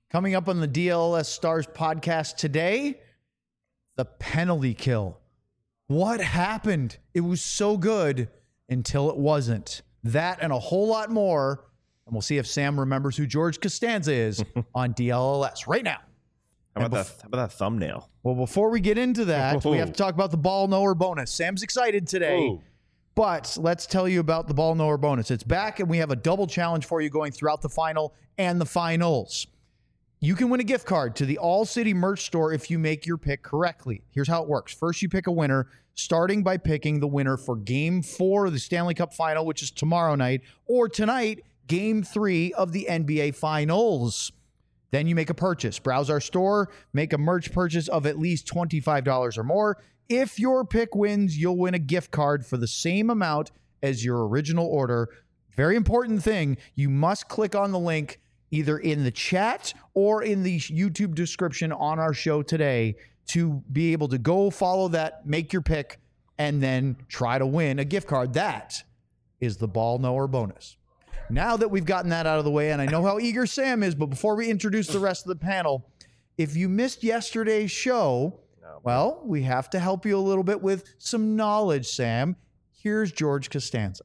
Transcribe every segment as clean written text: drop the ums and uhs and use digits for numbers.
Coming up on the DLS Stars podcast today, the penalty kill. What happened? It was so good until it wasn't. That and a whole lot more. And we'll see if Sam remembers who George Costanza is on DLS right now. How about that thumbnail? Well, before we get into that, we have to talk about the ball knower bonus. Sam's excited today. Ooh. But let's tell you about the ball knower bonus. It's back, and we have a double challenge for you going throughout the final and the finals. You can win a gift card to the All City merch store if you make your pick correctly. Here's how it works. First, you pick a winner, starting by picking the winner for Game 4 of the Stanley Cup Final, which is tomorrow night, or tonight, Game 3 of the NBA Finals. Then you make a purchase. Browse our store, make a merch purchase of at least $25 or more. If your pick wins, you'll win a gift card for the same amount as your original order. Very important thing, you must click on the link either in the chat or in the YouTube description on our show today to be able to go follow that, make your pick, and then try to win a gift card. That is the ball knower bonus. Now that we've gotten that out of the way, and I know how eager Sam is, but before we introduce the rest of the panel, if you missed yesterday's show, well, we have to help you a little bit with some knowledge, Sam. Here's George Costanza.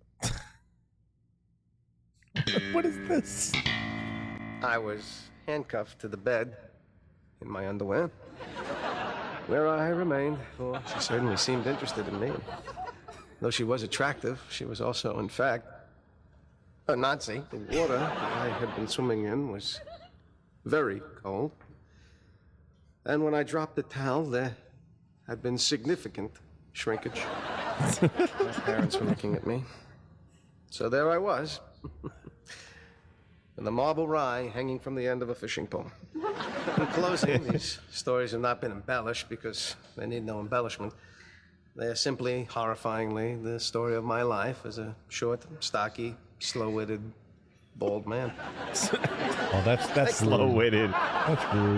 What is this? I was handcuffed to the bed in my underwear, where I remained, for she certainly seemed interested in me. Though she was attractive, she was also, in fact, a Nazi. The water that I had been swimming in was very cold. And when I dropped the towel, there had been significant shrinkage. My parents were looking at me. So there I was, with a marble rye hanging from the end of a fishing pole. In closing, these stories have not been embellished because they need no embellishment. They are simply, horrifyingly, the story of my life as a short, stocky, slow-witted, bald man. Oh, that's Slow-witted. That's rude.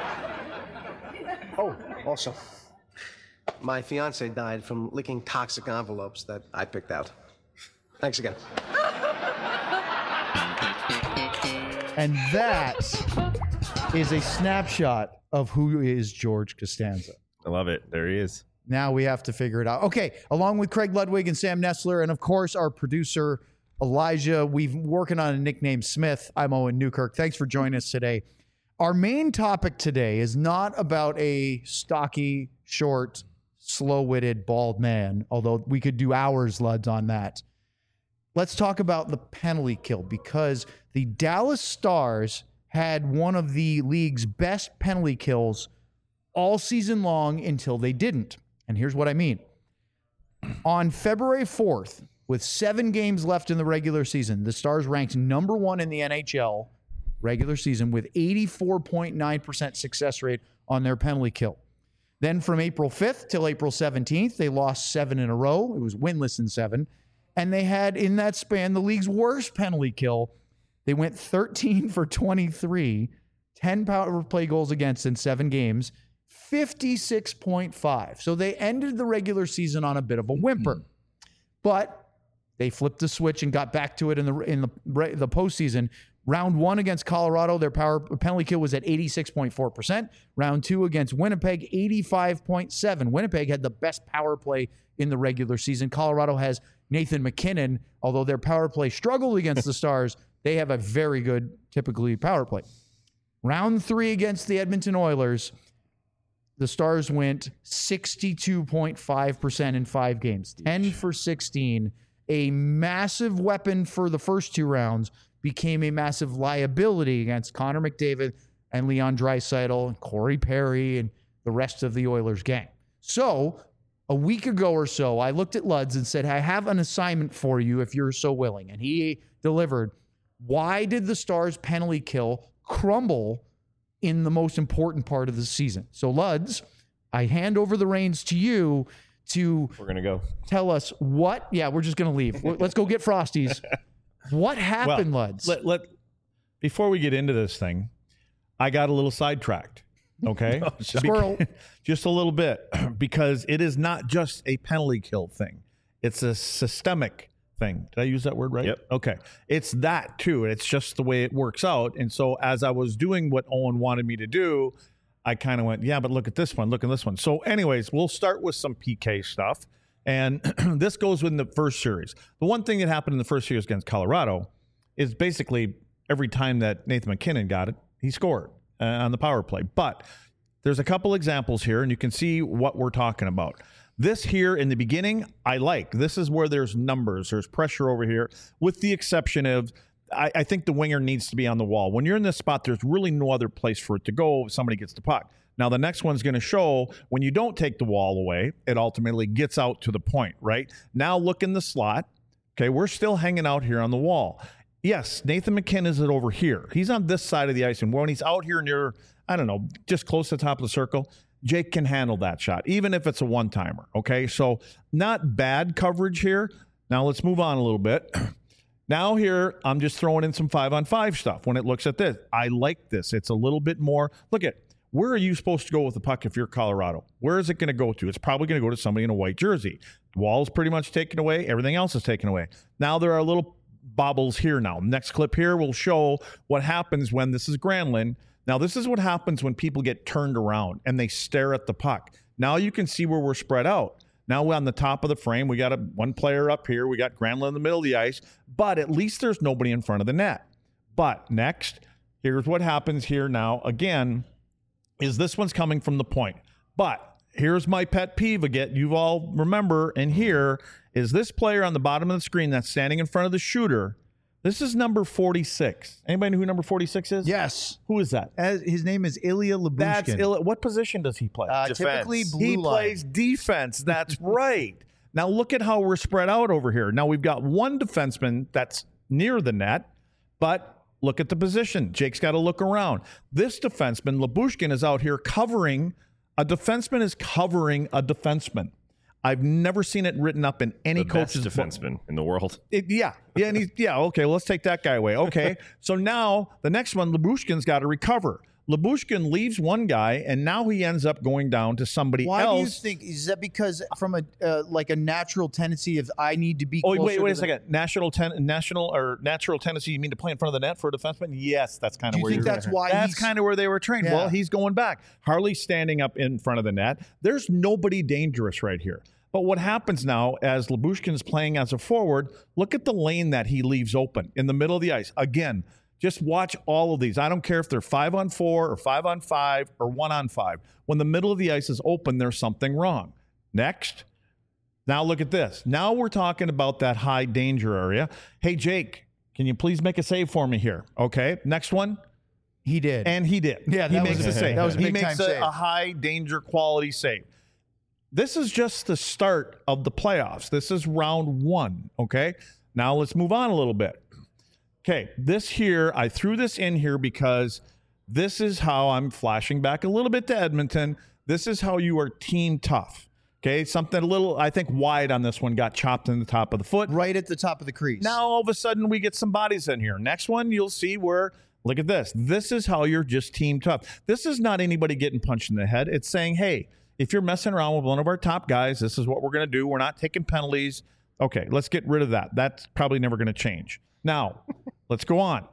Oh, also, my fiance died from licking toxic envelopes that I picked out. Thanks again. And that is a snapshot of who is George Costanza. I love it. There he is. Now we have to figure it out. Okay, along with Craig Ludwig and Sam Nestler, and of course our producer, Elijah, we've been working on a nickname Smith. I'm Owen Newkirk. Thanks for joining us today. Our main topic today is not about a stocky, short, slow-witted, bald man, although we could do hours, Luds, on that. Let's talk about the penalty kill, because the Dallas Stars had one of the league's best penalty kills all season long until they didn't. And here's what I mean. On February 4th, with 7 games left in the regular season, the Stars ranked number 1 in the NHL regular season with 84.9% success rate on their penalty kill. Then from April 5th till April 17th, they lost 7 in a row. It was winless in 7. And they had, in that span, the league's worst penalty kill. They went 13 for 23, 10 power play goals against in 7 games, 56.5. So they ended the regular season on a bit of a whimper. But they flipped the switch and got back to it in the postseason. Round 1 against Colorado, their penalty kill was at 86.4%. Round 2 against Winnipeg, 85.7%. Winnipeg had the best power play in the regular season. Colorado has Nathan McKinnon. Although their power play struggled against the Stars, they have a very good, typically, power play. Round 3 against the Edmonton Oilers, the Stars went 62.5% in 5 games, 10 for 16. A massive weapon for the first 2 rounds became a massive liability against Connor McDavid and Leon Draisaitl and Corey Perry and the rest of the Oilers gang. So a week ago or so, I looked at Luds and said, I have an assignment for you if you're so willing. And he delivered. Why did the Stars' penalty kill crumble in the most important part of the season? So Luds, I hand over the reins to you to We're going to go. tell us what. Yeah, we're just going to leave. Let's go get Frosties. What happened, Luds? Before we get into this thing, I got a little sidetracked. Okay, Squirrel. Just a little bit, because it is not just a penalty kill thing; it's a systemic thing. Did I use that word right? Yep. Okay. It's that too. It's just the way it works out. And so as I was doing what Owen wanted me to do, I kind of went, yeah, but look at this one. Look at this one. So anyways, we'll start with some PK stuff. And this goes in the first series. The one thing that happened in the first series against Colorado is basically every time that Nathan MacKinnon got it, he scored on the power play. But there's a couple examples here, and you can see what we're talking about. This here in the beginning, I like. This is where there's numbers. There's pressure over here, with the exception of I think the winger needs to be on the wall. When you're in this spot, there's really no other place for it to go if somebody gets the puck. Now, the next one's going to show when you don't take the wall away, it ultimately gets out to the point, right? Now look in the slot. Okay, we're still hanging out here on the wall. Yes, Nathan MacKinnon is over here. He's on this side of the ice, and when he's out here near, I don't know, just close to the top of the circle, Jake can handle that shot, even if it's a one-timer, okay? So not bad coverage here. Now let's move on a little bit. Now here, I'm just throwing in some 5-on-5 stuff when it looks at this. I like this. It's a little bit more. Look at, where are you supposed to go with the puck if you're Colorado? Where is it going to go to? It's probably going to go to somebody in a white jersey. The wall's pretty much taken away. Everything else is taken away. Now there are little bobbles here now. Next clip here will show what happens when this is Granlund. Now this is what happens when people get turned around and they stare at the puck. Now you can see where we're spread out. Now we're on the top of the frame. We got one player up here. We got Granlund in the middle of the ice, but at least there's nobody in front of the net. But next, here's what happens here now. Again, is this one's coming from the point. But here's my pet peeve again. You all remember, and here is this player on the bottom of the screen that's standing in front of the shooter. This is number 46. Anybody know who number 46 is? Yes. Who is that? His name is Ilya Lyubushkin. That's what position does he play? Typically blue He line. plays defense. That's right. Now look at how we're spread out over here. Now we've got one defenseman that's near the net, but look at the position. Jake's got to look around. This defenseman, Lyubushkin, is out here covering. A defenseman is covering a defenseman. I've never seen it written up in any coach's best defenseman in the world. and okay, well, let's take that guy away. Okay, so now the next one, Lyubushkin's got to recover. Lyubushkin leaves one guy, and now he ends up going down to somebody Why else. do you think, is that because from a like a natural tendency of I need to be Oh, closer wait a to second. Natural tendency, you mean to play in front of the net for a defenseman? Yes, that's kind of Do you where think you're that's why That's he's- kind of where they were trained. Yeah. Well, he's going back. Harley's standing up in front of the net. There's nobody dangerous right here. But what happens now as Lyubushkin's playing as a forward, look at the lane that he leaves open in the middle of the ice. Again, just watch all of these. I don't care if they're 5-on-4 or 5-on-5 or 1-on-5. When the middle of the ice is open, there's something wrong. Next. Now look at this. Now we're talking about that high danger area. Hey, Jake, can you please make a save for me here? Okay. Next one. He did. And he did. Yeah, he that makes was a a- save. that was a he big makes time save. a high danger quality save. This is just the start of the playoffs. This is round 1. Okay. Now let's move on a little bit. Okay. This here, I threw this in here because this is how I'm flashing back a little bit to Edmonton. This is how you are team tough. Okay. Something a little, I think, wide on this one, got chopped in the top of the foot. right at the top of the crease. Now, all of a sudden, we get some bodies in here. Next one, you'll see where, look at this. This is how you're just team tough. This is not anybody getting punched in the head. It's saying, hey, if you're messing around with one of our top guys, this is what we're going to do. We're not taking penalties. Okay, let's get rid of that. That's probably never going to change. Now, let's go on.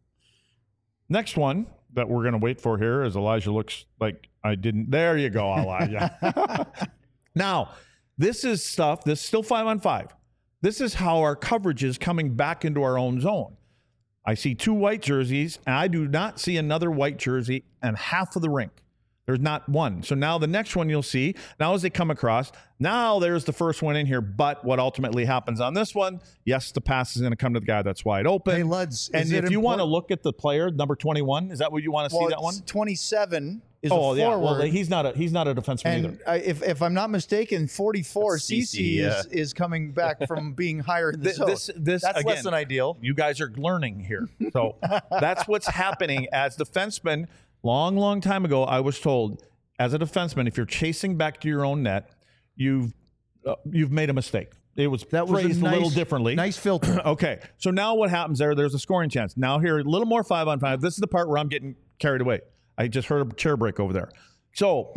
Next one that we're going to wait for here is Elijah looks like I didn't. There you go, Elijah. Now, this is stuff, this is still 5-on-5. This is how our coverage is coming back into our own zone. I see 2 white jerseys, and I do not see another white jersey in half of the rink. There's not one. So now the next one you'll see, now as they come across, now there's the first one in here. But what ultimately happens on this one, yes, the pass is going to come to the guy that's wide open. Hey, Luds, and is if it you want to important- look at the player, number 21, is that what you want to see, that one? 27 is a Oh, forward. yeah. Well, he's not a defenseman either. And if I'm not mistaken, 44 That's CC CC, is coming back from being higher in the zone. This That's again, less than ideal. You guys are learning here. So that's what's happening as defensemen. Long time ago, I was told, as a defenseman, if you're chasing back to your own net, you've made a mistake. It was phrased a little differently. Nice filter. Okay, so now what happens there's a scoring chance. Now here, a little more 5-on-5. This is the part where I'm getting carried away. I just heard a chair break over there. So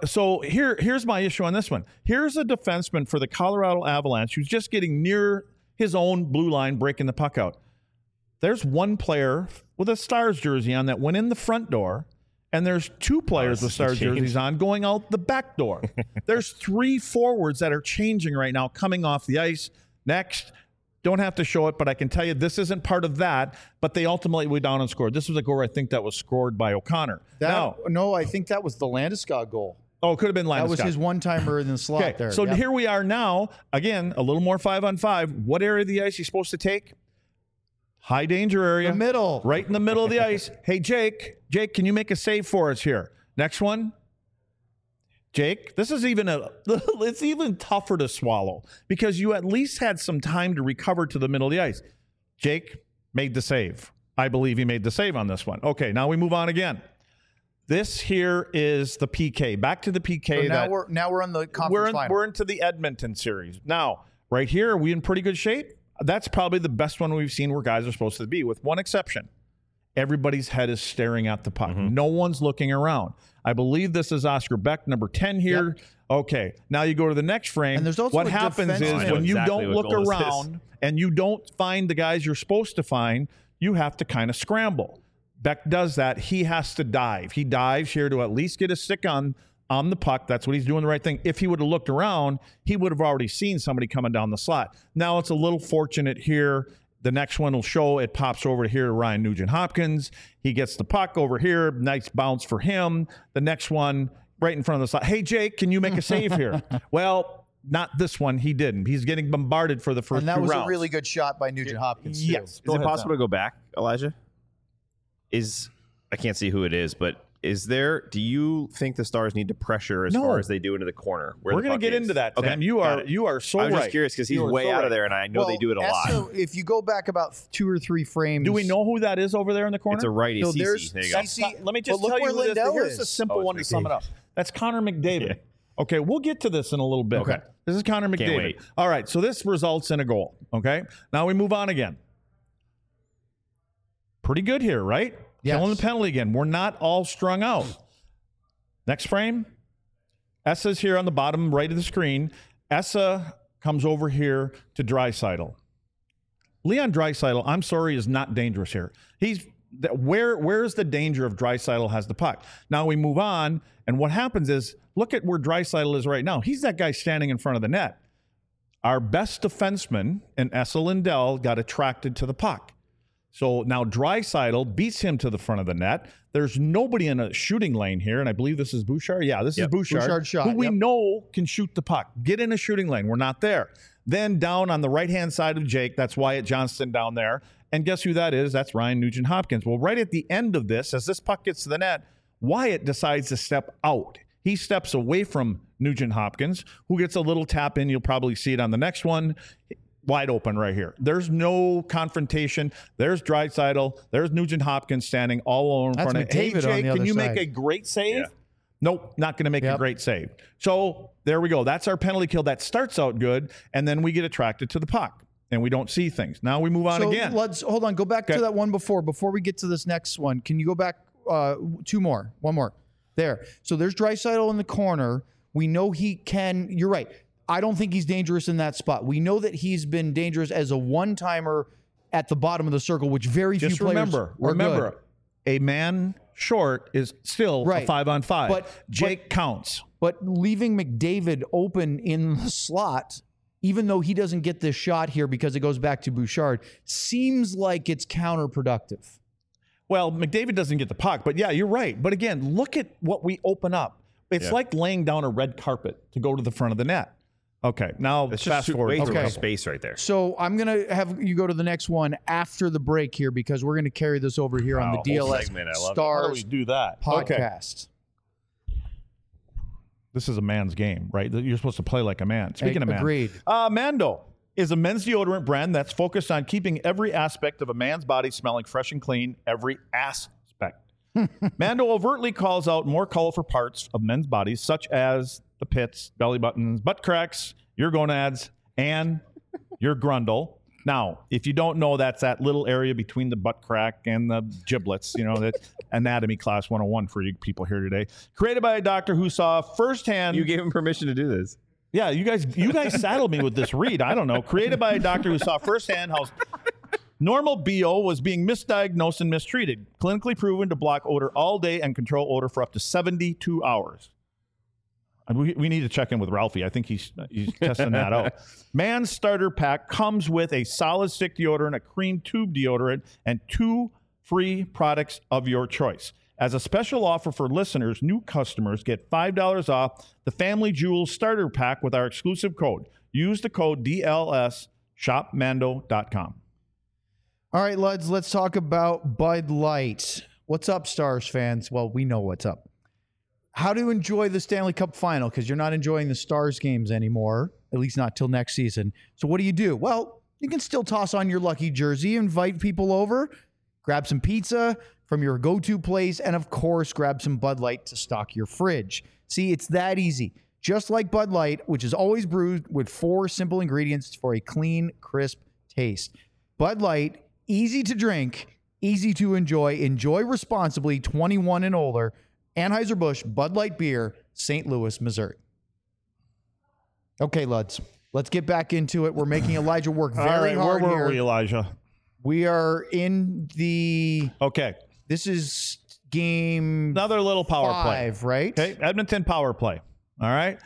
here's my issue on this one. Here's a defenseman for the Colorado Avalanche who's just getting near his own blue line, breaking the puck out. There's one player with a Stars jersey on that went in the front door, and there's two players with Stars jerseys on going out the back door. There's 3 forwards that are changing right now, coming off the ice. Next, don't have to show it, but I can tell you this isn't part of that, but they ultimately went down and scored. This was a goal I think that was scored by O'Connor. No, I think that was the Landeskog goal. Oh, it could have been Landeskog. That was his one-timer in the slot there. So here we are now. Again, a little more 5-on-5. What area of the ice are you supposed to take? High danger area. The middle. Right in the middle of the ice. Hey, Jake, can you make a save for us here? Next one. Jake, this is it's even tougher to swallow because you at least had some time to recover to the middle of the ice. Jake made the save. I believe he made the save on this one. Okay, now we move on again. This here is the PK. Back to the PK. So now we're on the conference final. We're into the Edmonton series. Now, right here, are we in pretty good shape? That's probably the best one we've seen where guys are supposed to be, with one exception. Everybody's head is staring at the puck. Mm-hmm. No one's looking around. I believe this is Oscar Beck, number 10 here. Yep. Okay, now you go to the next frame. And there's also what happens is when you don't look around and you don't find the guys you're supposed to find, you have to kind of scramble. Beck does that. He has to dive. He dives here to at least get a stick on the puck. That's what he's doing the right thing. If he would have looked around, he would have already seen somebody coming down the slot. Now it's a little fortunate here. The next one will show it pops over to here to Ryan Nugent-Hopkins. He gets the puck over here. Nice bounce for him. The next one right in front of the slot. Hey, Jake, can you make a save here? Well, not this one. He didn't. He's getting bombarded for the first 2 rounds. And that was a really good shot by Nugent-Hopkins. Yes. Is it possible to go back, Elijah? I can't see who it is, but do you think the Stars need to pressure as far as they do into the corner? We're going to get into that, Sam. You are so right. I was just curious because he's way out of there, and I know they do it a lot. So if you go back about 2 or 3 frames. Do we know who that is over there in the corner? It's a righty. No, Cece. There you go. Let me just tell you who this is. Here's a simple one to sum it up. That's Connor McDavid. Yeah. Okay, we'll get to this in a little bit. Okay. This is Connor McDavid. Can't wait. All right, so this results in a goal. Okay, now we move on again. Pretty good here, right? Yes. Killing the penalty again. We're not all strung out. Next frame. Essa's here on the bottom right of the screen. Essa comes over here to Draisaitl. Leon Draisaitl, I'm sorry, is not dangerous here. Where's the danger of Draisaitl has the puck? Now we move on, and what happens is, look at where Draisaitl is right now. He's that guy standing in front of the net. Our best defenseman in Esa Lindell got attracted to the puck. So now Draisaitl beats him to the front of the net. There's nobody in a shooting lane here, and I believe this is Bouchard. Yeah, this is Bouchard, Bouchard's shot, who we know can shoot the puck. Get in a shooting lane. We're not there. Then down on the right-hand side of Jake, that's Wyatt Johnston down there. And guess who that is? That's Ryan Nugent-Hopkins. Well, right at the end of this, as this puck gets to the net, Wyatt decides to step out. He steps away from Nugent-Hopkins, who gets a little tap in. You'll probably see it on the next one. Wide open right here. There's no confrontation. There's Draisaitl. There's Nugent-Hopkins standing all alone in front of McDavid. Hey, Jake, can you side. make a great save? Yeah. Nope, not going to make a great save. So there we go. That's our penalty kill. That starts out good, and then we get attracted to the puck, and we don't see things. Now we move on again. Let's hold on. Go back to that one before we get to this next one. Can you go back 2 more? 1 more. There. So there's Draisaitl in the corner. We know he can. You're right. I don't think he's dangerous in that spot. We know that he's been dangerous as a one-timer at the bottom of the circle, which very few players are Remember, good. A man short is still a 5-on-5. But Jake counts. But leaving McDavid open in the slot, even though he doesn't get this shot here because it goes back to Bouchard, seems like it's counterproductive. Well, McDavid doesn't get the puck, but yeah, you're right. But again, look at what we open up. It's like laying down a red carpet to go to the front of the net. Okay, now it's fast just forward. way space right there. So I'm going to have you go to the next one after the break here because we're going to carry this over here on the DLS Stars do that podcast. Okay. This is a man's game, right? You're supposed to play like a man. Speaking of man. Agreed. Mando is a men's deodorant brand that's focused on keeping every aspect of a man's body smelling fresh and clean, every aspect. Mando overtly calls out more colorful parts of men's bodies, such as the pits, belly buttons, butt cracks, your gonads, and your grundle. Now, if you don't know, that's that little area between the butt crack and the giblets, that anatomy class 101 for you people here today. Created by a doctor who saw firsthand. You gave him permission to do this. Yeah, you guys saddled me with this read. I don't know. Created by a doctor who saw firsthand how normal BO was being misdiagnosed and mistreated. Clinically proven to block odor all day and control odor for up to 72 hours. And we need to check in with Ralphie. I think he's testing that out. Man's Starter Pack comes with a solid stick deodorant, a cream tube deodorant, and 2 free products of your choice. As a special offer for listeners, new customers get $5 off the Family Jewels Starter Pack with our exclusive code. Use the code DLS, shopmando.com. All right, Luds, let's talk about Bud Light. What's up, Stars fans? Well, we know what's up. How to enjoy the Stanley Cup final, because you're not enjoying the Stars games anymore, at least not till next season. So what do? Well, you can still toss on your lucky jersey, invite people over, grab some pizza from your go-to place, and of course, grab some Bud Light to stock your fridge. See, it's that easy. Just like Bud Light, which is always brewed with 4 simple ingredients for a clean, crisp taste. Bud Light, easy to drink, easy to enjoy. Enjoy responsibly, 21 and older. Anheuser-Busch Bud Light Beer, St. Louis, Missouri. Okay, Luds, let's get back into it. We're making Elijah work very hard where here. were we, Elijah? We are in the... Okay. This is game Another little power 5, play. right? Okay, Edmonton power play. All right.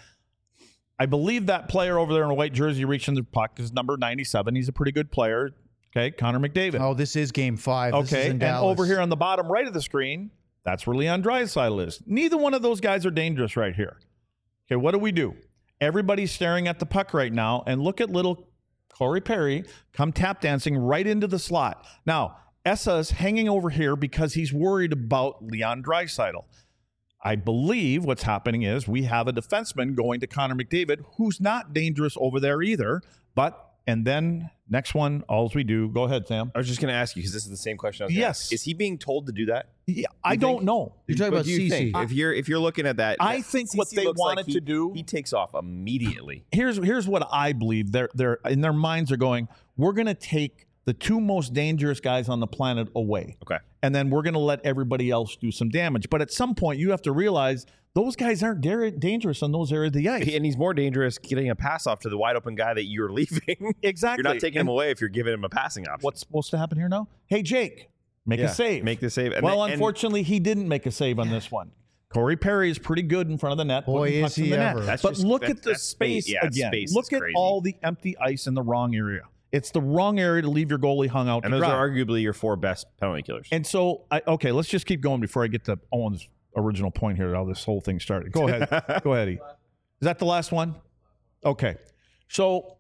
I believe that player over there in a white jersey reaching the puck is number 97. He's a pretty good player. Okay, Connor McDavid. Oh, this is game 5. This is Okay, in and Dallas. over here on the bottom right of the screen, that's where Leon Draisaitl is. Neither one of those guys are dangerous right here. Okay, what do? Everybody's staring at the puck right now, and look at little Corey Perry come tap dancing right into the slot. Now, Essa's hanging over here because he's worried about Leon Draisaitl. I believe what's happening is we have a defenseman going to Connor McDavid, who's not dangerous over there either, and then next one, all we do, go ahead, Sam. I was just going to ask you, because this is the same question I was going to ask. Is he being told to do that? Yeah, I don't know. You're talking about CC. If you're looking at that, I think what they wanted to do, he takes off immediately. Here's what I believe. They're in their minds are going, we're going to take the 2 most dangerous guys on the planet away. Okay. And then we're going to let everybody else do some damage. But at some point, you have to realize those guys aren't dangerous on those areas of the ice. And he's more dangerous getting a pass off to the wide open guy that you're leaving. Exactly. You're not taking him away if you're giving him a passing option. What's supposed to happen here now? Hey, Jake, make a save. Make the save. Unfortunately, he didn't make a save on this one. Corey Perry is pretty good in front of the net. Boy, is he ever. But look at the space again. Look at all the empty ice in the wrong area. It's the wrong area to leave your goalie hung out. And those are arguably your 4 best penalty killers. And so, let's just keep going before I get to Owen's original point here, how this whole thing started. Go ahead. Go ahead, E. Is that the last one? Okay. So,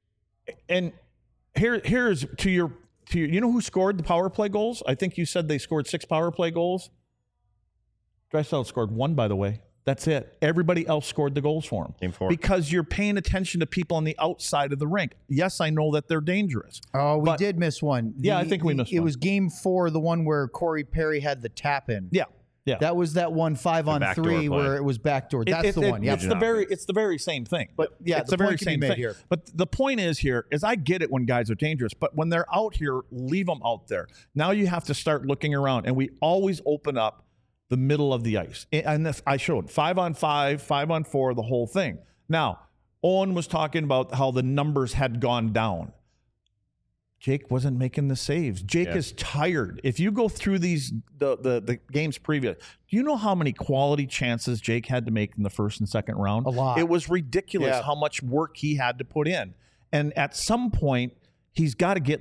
and here's to your, you know who scored the power play goals? I think you said they scored 6 power play goals. Draisaitl scored 1, by the way. That's it. Everybody else scored the goals for him. Game 4. Because you're paying attention to people on the outside of the rink. Yes, I know that they're dangerous. Oh, we did miss one. I think we missed one. It was game 4, the one where Corey Perry had the tap in. Yeah. That was that one 5-on-3 where it was backdoor. That's the one. Yeah. It's the very same thing. But yeah, it's the very same thing here. But the point is I get it when guys are dangerous, but when they're out here, leave them out there. Now you have to start looking around, and we always open up the middle of the ice. And I showed 5-on-5, 5-on-4, the whole thing. Now, Owen was talking about how the numbers had gone down. Jake wasn't making the saves. Jake is tired. If you go through the games previous, do you know how many quality chances Jake had to make in the first and second round? A lot. It was ridiculous how much work he had to put in. And at some point, he's got to get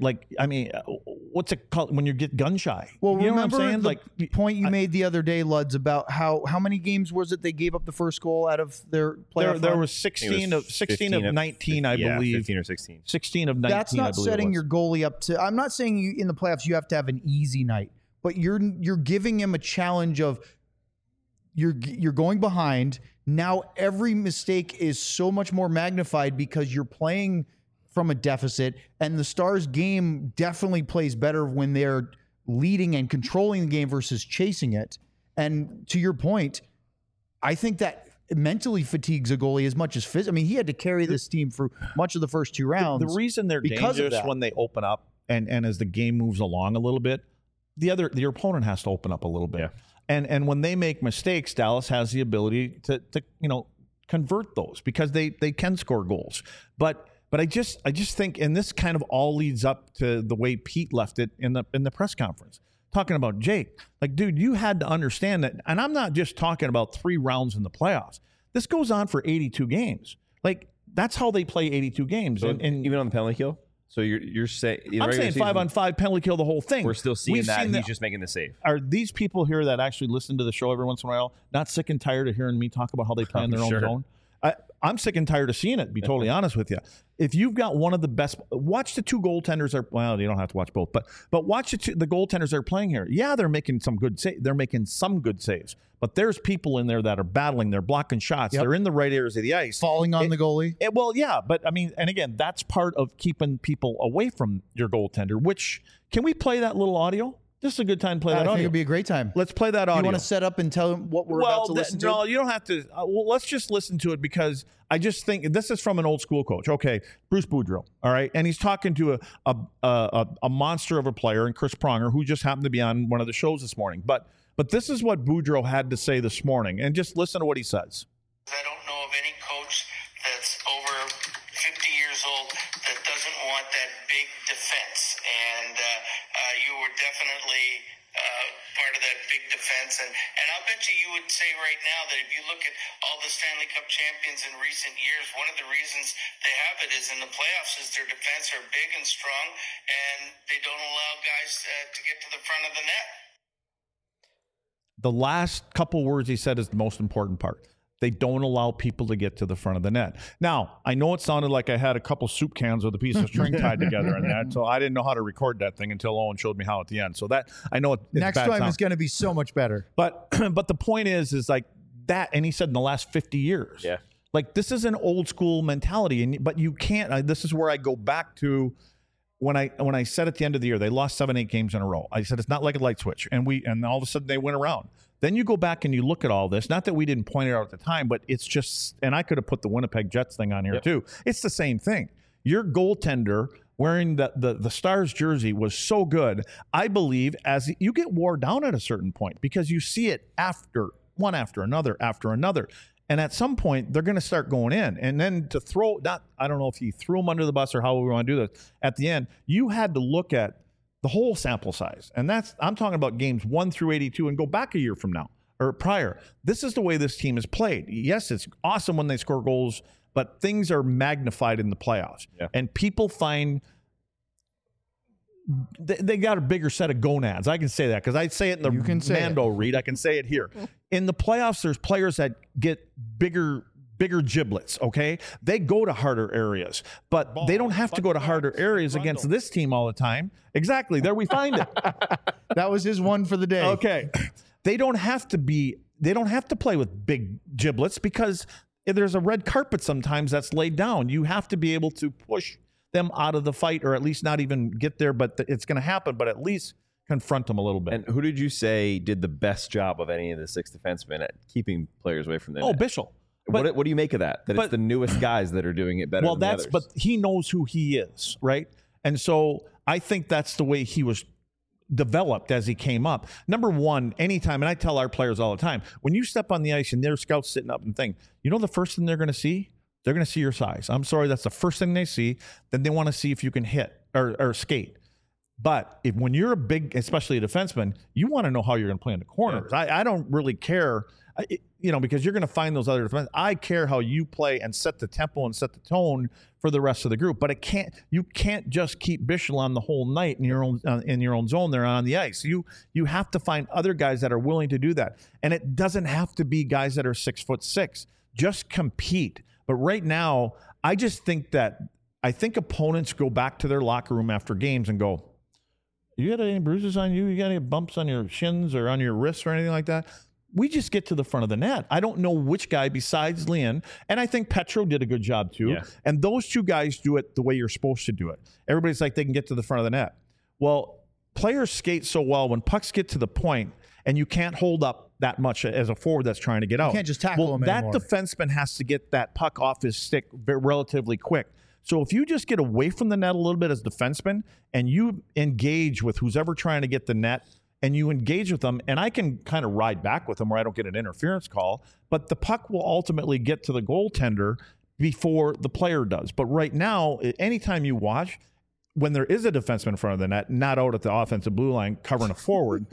what's it called when you get gun shy? Well, you know remember what I'm saying? the point you made the other day, Luds, about how many games was it they gave up the first goal out of their playoff There run? was 16 of 19, I believe. 15 or 16. 16 of 19, That's not setting your goalie up to. I'm not saying you in the playoffs you have to have an easy night, but you're giving him a challenge of you're going behind. Now every mistake is so much more magnified because you're playing from a deficit, and the Stars game definitely plays better when they're leading and controlling the game versus chasing it. And to your point, I think that mentally fatigues a goalie as much as physically. I mean, he had to carry this team for much of the first 2 rounds. The reason they're dangerous when they open up and as the game moves along a little bit, the opponent has to open up a little bit. Yeah. And when they make mistakes, Dallas has the ability to convert those because they can score goals. But I just think, and this kind of all leads up to the way Pete left it in the press conference, talking about Jake. Like, dude, you had to understand that, and I'm not just talking about 3 rounds in the playoffs. This goes on for 82 games. Like, that's how they play 82 games. So and even on the penalty kill? So you're saying I'm saying 5-on-5 penalty kill the whole thing. We're still seeing that. He's just making the save. Are these people here that actually listen to the show every once in a while not sick and tired of hearing me talk about how they play in their own zone? I'm sick and tired of seeing it, to be totally honest with you. If you've got one of the best, watch the 2 goaltenders well, you don't have to watch both, but watch the goaltenders that are playing here. Yeah, they're making some good saves, but there's people in there that are battling. They're blocking shots. They're in the right areas of the ice. Falling on the goalie. Well, yeah, but I mean, and again, that's part of keeping people away from your goaltender, which, can we play that little audio? This is a good time to play that I think audio. it'd be a great time. Let's play that audio. You want to set up and tell them what we're about to listen to? No, you don't have to. Let's just listen to it because I just think this is from an old school coach. Okay, Bruce Boudreau. All right, and he's talking to a monster of a player, and Chris Pronger, who just happened to be on one of the shows this morning. But this is what Boudreau had to say this morning, and just listen to what he says. I don't know of any coach that's over 50 years old that doesn't want that big defense, and you were definitely part of that big defense. And I'll bet you would say right now that if you look at all the Stanley Cup champions in recent years, one of the reasons they have it is in the playoffs is their defense are big and strong, and they don't allow guys to get to the front of the net. The last couple words he said is the most important part. They don't allow people to get to the front of the net. Now, I know it sounded like I had a couple soup cans with a piece of string tied together in that, so I didn't know how to record that thing until Owen showed me how at the end. So that, I know it's next bad time sound. is going to be so much better. But the point is like that, and he said in the last 50 years. Yeah. Like, this is an old school mentality, but you can't. This is where I go back to when I said at the end of the year they lost 7-8 games in a row. I said it's not like a light switch, and all of a sudden they went around. Then you go back and you look at all this. Not that we didn't point it out at the time, but it's just, and I could have put the Winnipeg Jets thing on here too. It's the same thing. Your goaltender wearing the Stars jersey was so good. I believe as you get wore down at a certain point because you see it after another. And at some point, they're going to start going in. And then to throw, I don't know if he threw them under the bus or how we want to do this. At the end, you had to look at the whole sample size. And I'm talking about games 1 through 82 and go back a year from now or prior. This is the way this team is played. Yes, it's awesome when they score goals, but things are magnified in the playoffs. Yeah. And people find they got a bigger set of gonads. I can say that because I say it in the Mando read. I can say it here. In the playoffs, there's players that get bigger giblets, okay? They go to harder areas, but they don't have to go to harder areas against this team all the time. Exactly. There we find it. That was his one for the day. Okay. They don't have to play with big giblets because there's a red carpet sometimes that's laid down. You have to be able to push them out of the fight or at least not even get there, but it's going to happen, but at least confront them a little bit. And who did you say did the best job of any of the 6 defensemen at keeping players away from the net? Bischel. What do you make of that? That it's the newest guys that are doing it better than the others? But he knows who he is, right? And so I think that's the way he was developed as he came up. Number one, anytime, and I tell our players all the time, when you step on the ice and their scouts sitting up and think, you know the first thing they're going to see? They're going to see your size. I'm sorry, that's the first thing they see. Then they want to see if you can hit or skate. But when you're a big, especially a defenseman, you want to know how you're going to play in the corners. Yeah. I don't really care, because you're going to find those other defense. I care how you play and set the tempo and set the tone for the rest of the group. But you can't just keep Bischel on the whole night in your own zone there on the ice. You have to find other guys that are willing to do that, and it doesn't have to be guys that are 6'6". Just compete. But right now, I just think opponents go back to their locker room after games and go, you got any bruises on you? You got any bumps on your shins or on your wrists or anything like that? We just get to the front of the net. I don't know which guy besides Leon, and I think Petro did a good job too. Yeah. And those two guys do it the way you're supposed to do it. Everybody's like they can get to the front of the net. Well, players skate so well when pucks get to the point and you can't hold up that much as a forward that's trying to get out. You can't just tackle him anymore. That defenseman has to get that puck off his stick relatively quick. So if you just get away from the net a little bit as a defenseman and you engage with who's ever trying to get the net and you engage with them, and I can kind of ride back with them where I don't get an interference call, but the puck will ultimately get to the goaltender before the player does. But right now, anytime you watch, when there is a defenseman in front of the net, not out at the offensive blue line covering a forward,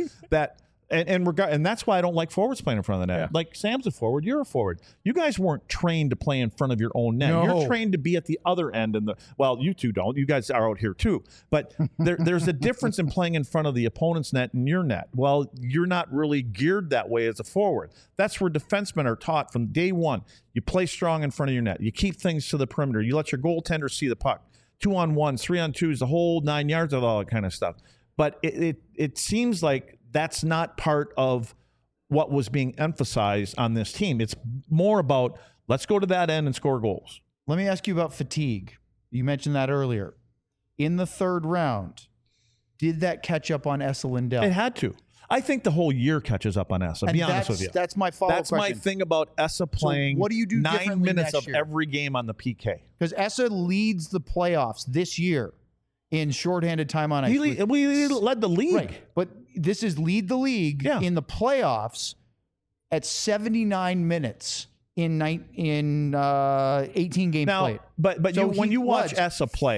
and that's why I don't like forwards playing in front of the net. Yeah. Like, Sam's a forward, you're a forward. You guys weren't trained to play in front of your own net. No. You're trained to be at the other end. Well, you two don't. You guys are out here too. But there's a difference in playing in front of the opponent's net and your net. Well, you're not really geared that way as a forward. That's where defensemen are taught from day one. You play strong in front of your net. You keep things to the perimeter. You let your goaltender see the puck. 2-on-1s, 3-on-2s, the whole 9 yards of all that kind of stuff. But it seems like that's not part of what was being emphasized on this team. It's more about, let's go to that end and score goals. Let me ask you about fatigue. You mentioned that earlier. In the third round, did that catch up on Esa Lindell? It had to. I think the whole year catches up on Esa, be honest with you. That's my follow-up That's question. my thing about Esa playing what do you do 9 differently minutes next of year? every game on the PK. Because Esa leads the playoffs this year in shorthanded time on ice. We led the league. Right. But this is lead the league in the playoffs at 79 minutes in 18 games played. But So when he you watch was Esa play,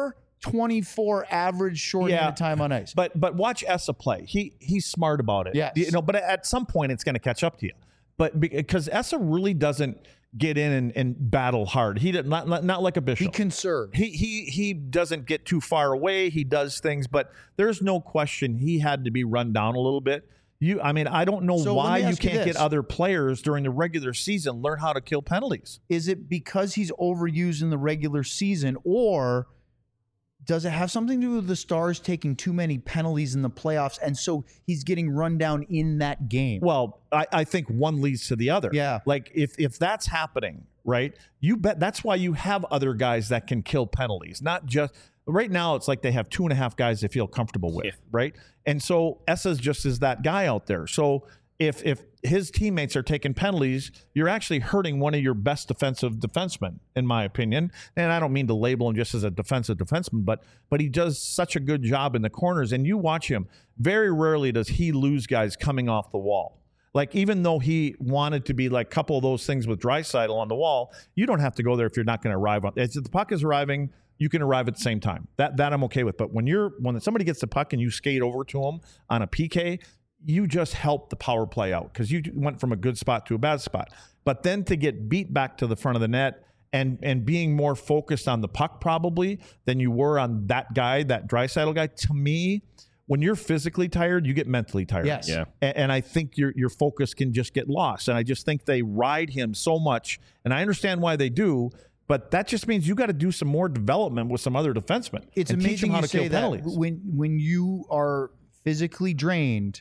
4:24 average shorthanded time on ice. But watch Esa play. He's smart about it. Yes. But at some point it's going to catch up to you. But because Esa really doesn't get in and battle hard. He did not like a Bishop. He conserved. He doesn't get too far away. He does things, but there's no question he had to be run down a little bit. I don't know why you can't get other players during the regular season learn how to kill penalties. Is it because he's overused in the regular season, or does it have something to do with the Stars taking too many penalties in the playoffs, and so he's getting run down in that game? Well, I think one leads to the other. Yeah. Like if that's happening, right, you bet that's why you have other guys that can kill penalties. Not just right now, it's like they have 2.5 guys they feel comfortable with, right? And so Esa's just is that guy out there. So if his teammates are taking penalties, you're actually hurting one of your best defensive defensemen, in my opinion. And I don't mean to label him just as a defensive defenseman, but he does such a good job in the corners. And you watch him, very rarely does he lose guys coming off the wall. Like, even though he wanted to be like a couple of those things with Draisaitl on the wall, you don't have to go there if you're not going to arrive on. If the puck is arriving, you can arrive at the same time. That I'm okay with. But when somebody gets the puck and you skate over to them on a PK, you just help the power play out because you went from a good spot to a bad spot. But then to get beat back to the front of the net and being more focused on the puck probably than you were on that guy, that Draisaitl guy, to me, when you're physically tired, you get mentally tired. Yes. Yeah. And I think your focus can just get lost. And I just think they ride him so much. And I understand why they do, but that just means you got to do some more development with some other defensemen. It's and teach amazing them how you to kill say that penalties. when you are physically drained,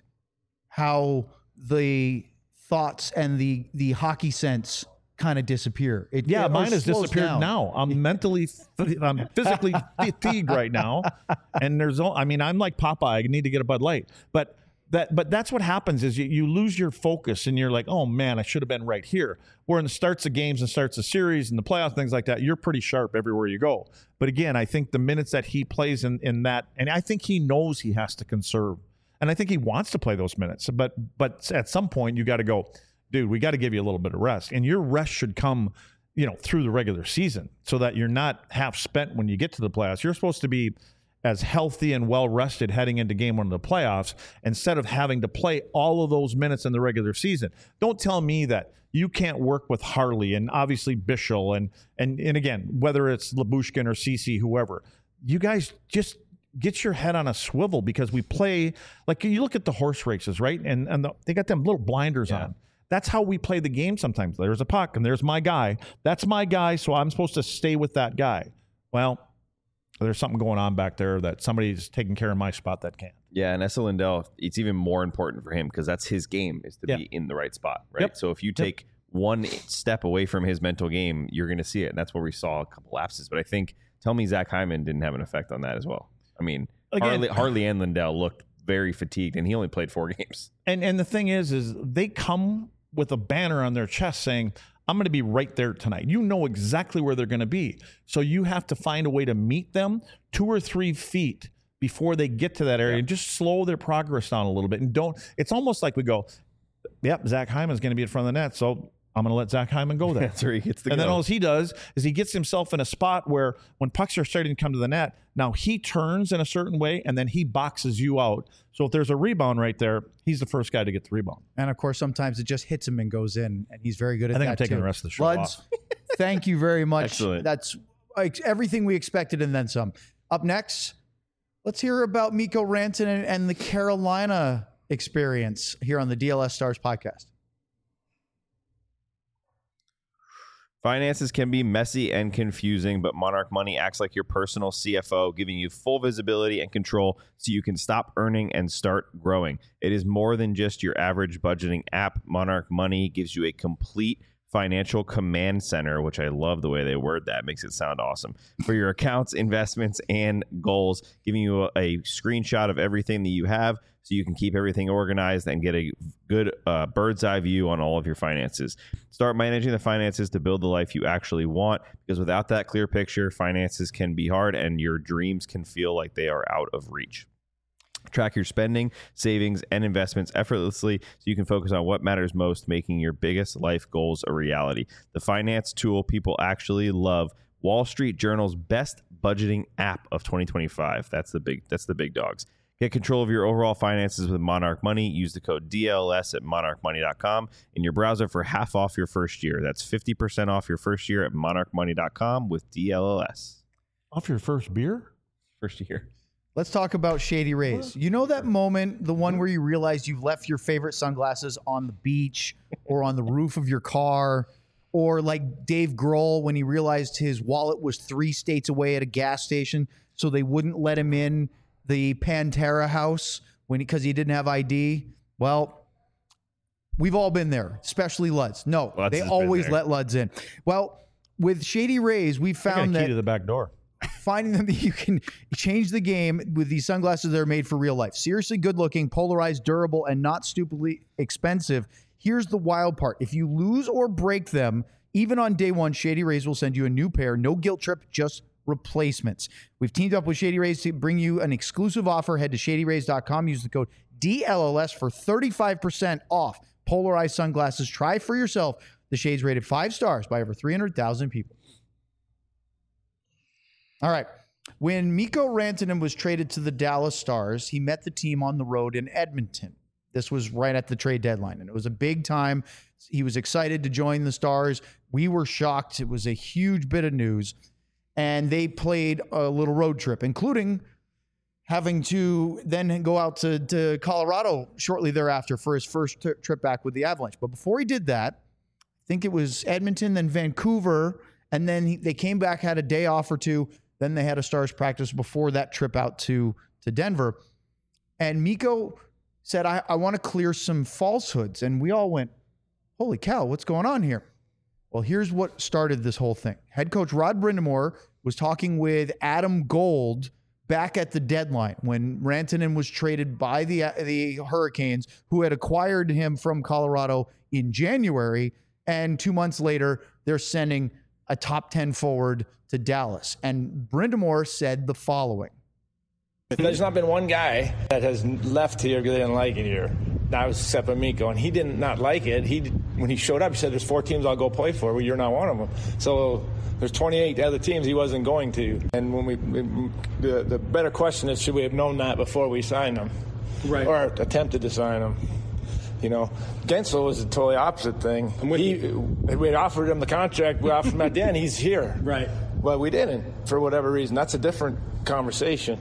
how the thoughts and the hockey sense kind of disappear. Mine has slows disappeared down. now. I'm physically fatigued right now. And I'm like Popeye. I need to get a Bud Light. But that's what happens is you lose your focus and you're like, oh man, I should have been right here. Where in the starts of games and starts of series and the playoffs, things like that, you're pretty sharp everywhere you go. But again, I think the minutes that he plays in that, and I think he knows he has to conserve. And I think he wants to play those minutes. But at some point you got to go, dude, we got to give you a little bit of rest. And your rest should come, through the regular season so that you're not half spent when you get to the playoffs. You're supposed to be as healthy and well-rested heading into game one of the playoffs instead of having to play all of those minutes in the regular season. Don't tell me that you can't work with Harley and obviously Bischel and again, whether it's Lyubushkin or Ceci, whoever. You guys just get your head on a swivel because we play, like you look at the horse races, right? And they got them little blinders on. That's how we play the game sometimes. There's a puck and there's my guy. That's my guy, so I'm supposed to stay with that guy. Well, there's something going on back there that somebody's taking care of my spot that can't. Yeah, and Esa Lindell, it's even more important for him because that's his game, is to be in the right spot, right? Yep. So if you take one step away from his mental game, you're going to see it. And that's where we saw a couple lapses. But I think, tell me Zach Hyman didn't have an effect on that as well. I mean, Again, Harley and Lindell looked very fatigued, and he only played 4 games. And the thing is they come with a banner on their chest saying, I'm going to be right there tonight. You know exactly where they're going to be. So you have to find a way to meet them 2 or 3 feet before they get to that area and just slow their progress down a little bit. And it's almost like we go, yep, Zach Hyman's going to be in front of the net, so I'm going to let Zach Hyman go there. That's where he gets the And go. then all he does is he gets himself in a spot where when pucks are starting to come to the net, now he turns in a certain way and then he boxes you out. So if there's a rebound right there, he's the first guy to get the rebound. And of course, sometimes it just hits him and goes in, and he's very good at I that. think I'm taking too. the rest of the show Luds, off. thank you very much. Excellent. That's like everything we expected and then some. Up next, let's hear about Mikko Rantanen and the Carolina experience here on the DLS Stars podcast. Finances can be messy and confusing, but Monarch Money acts like your personal CFO, giving you full visibility and control so you can stop earning and start growing. It is more than just your average budgeting app. Monarch Money gives you a complete financial command center, which I love the way they word that. Makes it sound awesome. For your accounts, investments, and goals, giving you a screenshot of everything that you have so you can keep everything organized and get a good bird's eye view on all of your finances. Start managing the finances to build the life you actually want, because without that clear picture, finances can be hard and your dreams can feel like they are out of reach. Track your spending, savings, and investments effortlessly so you can focus on what matters most, making your biggest life goals a reality. The finance tool people actually love, Wall Street Journal's best budgeting app of 2025. That's the big dogs. Get control of your overall finances with Monarch Money. Use the code DLS at monarchmoney.com in your browser for half off your first year. That's 50% off your first year at monarchmoney.com with DLS. Off your first beer? First year. Let's talk about Shady Rays. You know that moment, the one where you realize you've left your favorite sunglasses on the beach or on the roof of your car, or like Dave Grohl when he realized his wallet was 3 states away at a gas station, so they wouldn't let him in the Pantera house because he didn't have ID. Well, we've all been there, especially Luds. No, Luds they has been always there. let Luds in. Well, with Shady Rays, we I got a found key that to the back door. finding them that you can change the game with these sunglasses that are made for real life. Seriously good looking, polarized, durable, and not stupidly expensive. Here's the wild part. If you lose or break them, even on day one, Shady Rays will send you a new pair. No guilt trip, just replacements. We've teamed up with Shady Rays to bring you an exclusive offer. Head to shadyrays.com. Use the code DLLS for 35% off polarized sunglasses. Try for yourself. The shades rated 5 stars by over 300,000 people. All right. When Mikko Rantanen was traded to the Dallas Stars, he met the team on the road in Edmonton. This was right at the trade deadline, and it was a big time. He was excited to join the Stars. We were shocked. It was a huge bit of news, and they played a little road trip, including having to then go out to Colorado shortly thereafter for his first trip back with the Avalanche. But before he did that, I think it was Edmonton, then Vancouver, and then they came back, had a day off or two. Then they had a Stars practice before that trip out to Denver. And Mikko said, I want to clear some falsehoods. And we all went, holy cow, what's going on here? Well, here's what started this whole thing. Head coach Rod Brind'Amour was talking with Adam Gold back at the deadline when Rantanen was traded by the Hurricanes, who had acquired him from Colorado in January. And 2 months later, they're sending a top 10 forward to Dallas. And Brind'Amour said the following. There's not been one guy that has left here because they didn't like it here. That was except for Mikko, and he did not like it. When he showed up, he said, there's 4 teams I'll go play for. Well, you're not one of them. So there's 28 other teams he wasn't going to. And when the better question is, should we have known that before we signed him? Right. Or attempted to sign him? You know, Gensel was a totally opposite thing. We offered him the contract. We offered him at the end. He's here. Right. Well, we didn't, for whatever reason. That's a different conversation.